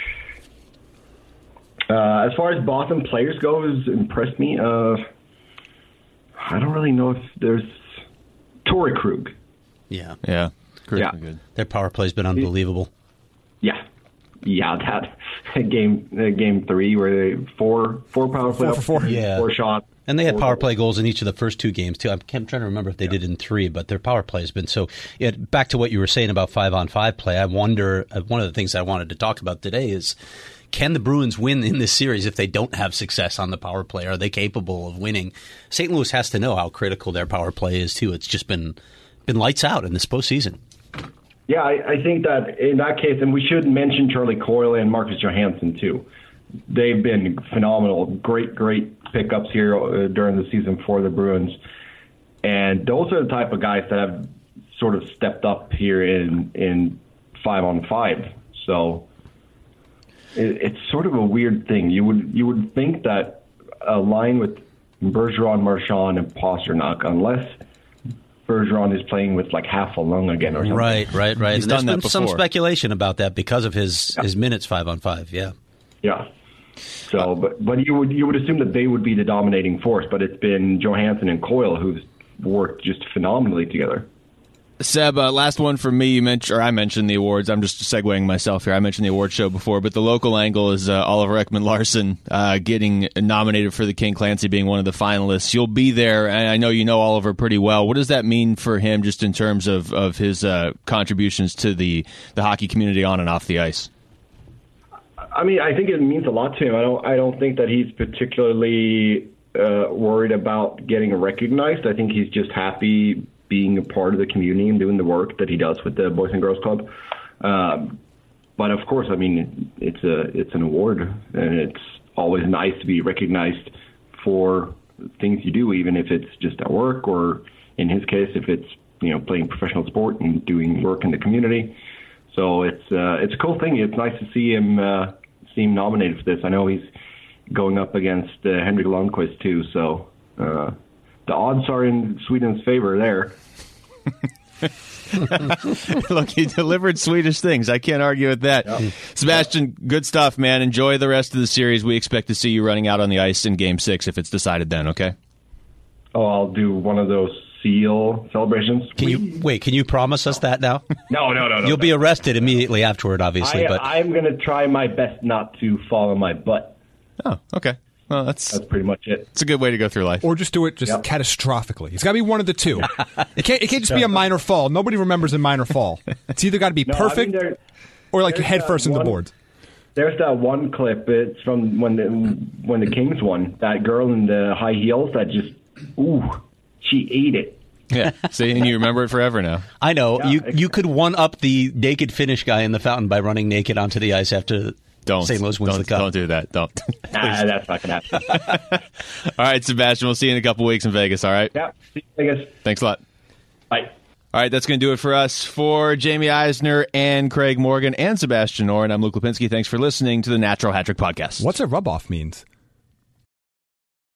As far as Boston players go, who's impressed me, I don't really know if there's Torrey Krug. Yeah. Krug's good. Their power play's been unbelievable. Yeah, that game 3 where they four power play, 4 for 4. Yeah. 4 shots. And they had power play goals in each of the first 2 games, too. I'm trying to remember if they did in 3, but their power play has been so... back to what you were saying about 5-on-5 play, I wonder, one of the things I wanted to talk about today is, can the Bruins win in this series if they don't have success on the power play? Are they capable of winning? St. Louis has to know how critical their power play is, too. It's just been lights out in this postseason. Yeah, I think that in that case, and we should mention Charlie Coyle and Marcus Johansson, too. They've been phenomenal. Great pickups here during the season for the Bruins. And those are the type of guys that have sort of stepped up here in 5-on-5. So it's sort of a weird thing. You would think that a line with Bergeron, Marchand, and Pasternak, unless Bergeron is playing with like half a lung again or something. Right. He's done that before. Some speculation about that because of his minutes 5-on-5, yeah. Yeah. So, but you would assume that they would be the dominating force, but it's been Johansson and Coyle who've worked just phenomenally together. Seb, last one for me. I mentioned the awards. I'm just segueing myself here. I mentioned the award show before, but the local angle is Oliver Ekman-Larsson getting nominated for the King Clancy, being one of the finalists. You'll be there, and I know you know Oliver pretty well. What does that mean for him, just in terms of his contributions to the hockey community on and off the ice? I mean, I think it means a lot to him. I don't think that he's particularly worried about getting recognized. I think he's just happy being a part of the community and doing the work that he does with the Boys and Girls Club. But of course, I mean, it's an award, and it's always nice to be recognized for things you do, even if it's just at work, or in his case, if it's playing professional sport and doing work in the community. So it's a cool thing. It's nice to see him nominated for this. I know he's going up against Henrik Lundqvist too, so the odds are in Sweden's favor there. Look, he delivered Swedish things. I can't argue with that. Yep. Sebastian, good stuff, man. Enjoy the rest of the series. We expect to see you running out on the ice in Game 6 if it's decided then, okay? Oh, I'll do one of those seal celebrations. Can you promise us that now? No. You'll be arrested immediately afterward, obviously. But I'm going to try my best not to fall on my butt. Oh, okay. Well, that's pretty much it. It's a good way to go through life. Or just do it catastrophically. It's got to be one of the two. It can't just be a minor fall. Nobody remembers a minor fall. It's either got to be perfect or like your head first in the boards. There's that one clip. It's from when the Kings won. That girl in the high heels that just, she ate it. Yeah, see, and you remember it forever now. I know. Yeah, you could one-up the naked Finnish guy in the fountain by running naked onto the ice after St. Louis wins the cup. Don't do that. Don't. That's not going to happen. All right, Sebastian, we'll see you in a couple weeks in Vegas, all right? Yeah, see you in Vegas. Thanks a lot. Bye. All right, that's going to do it for us. For Jamie Eisner and Craig Morgan and Sebastian Noren, I'm Luke Lipinski. Thanks for listening to the Natural Hat Trick Podcast. What's a rub-off means?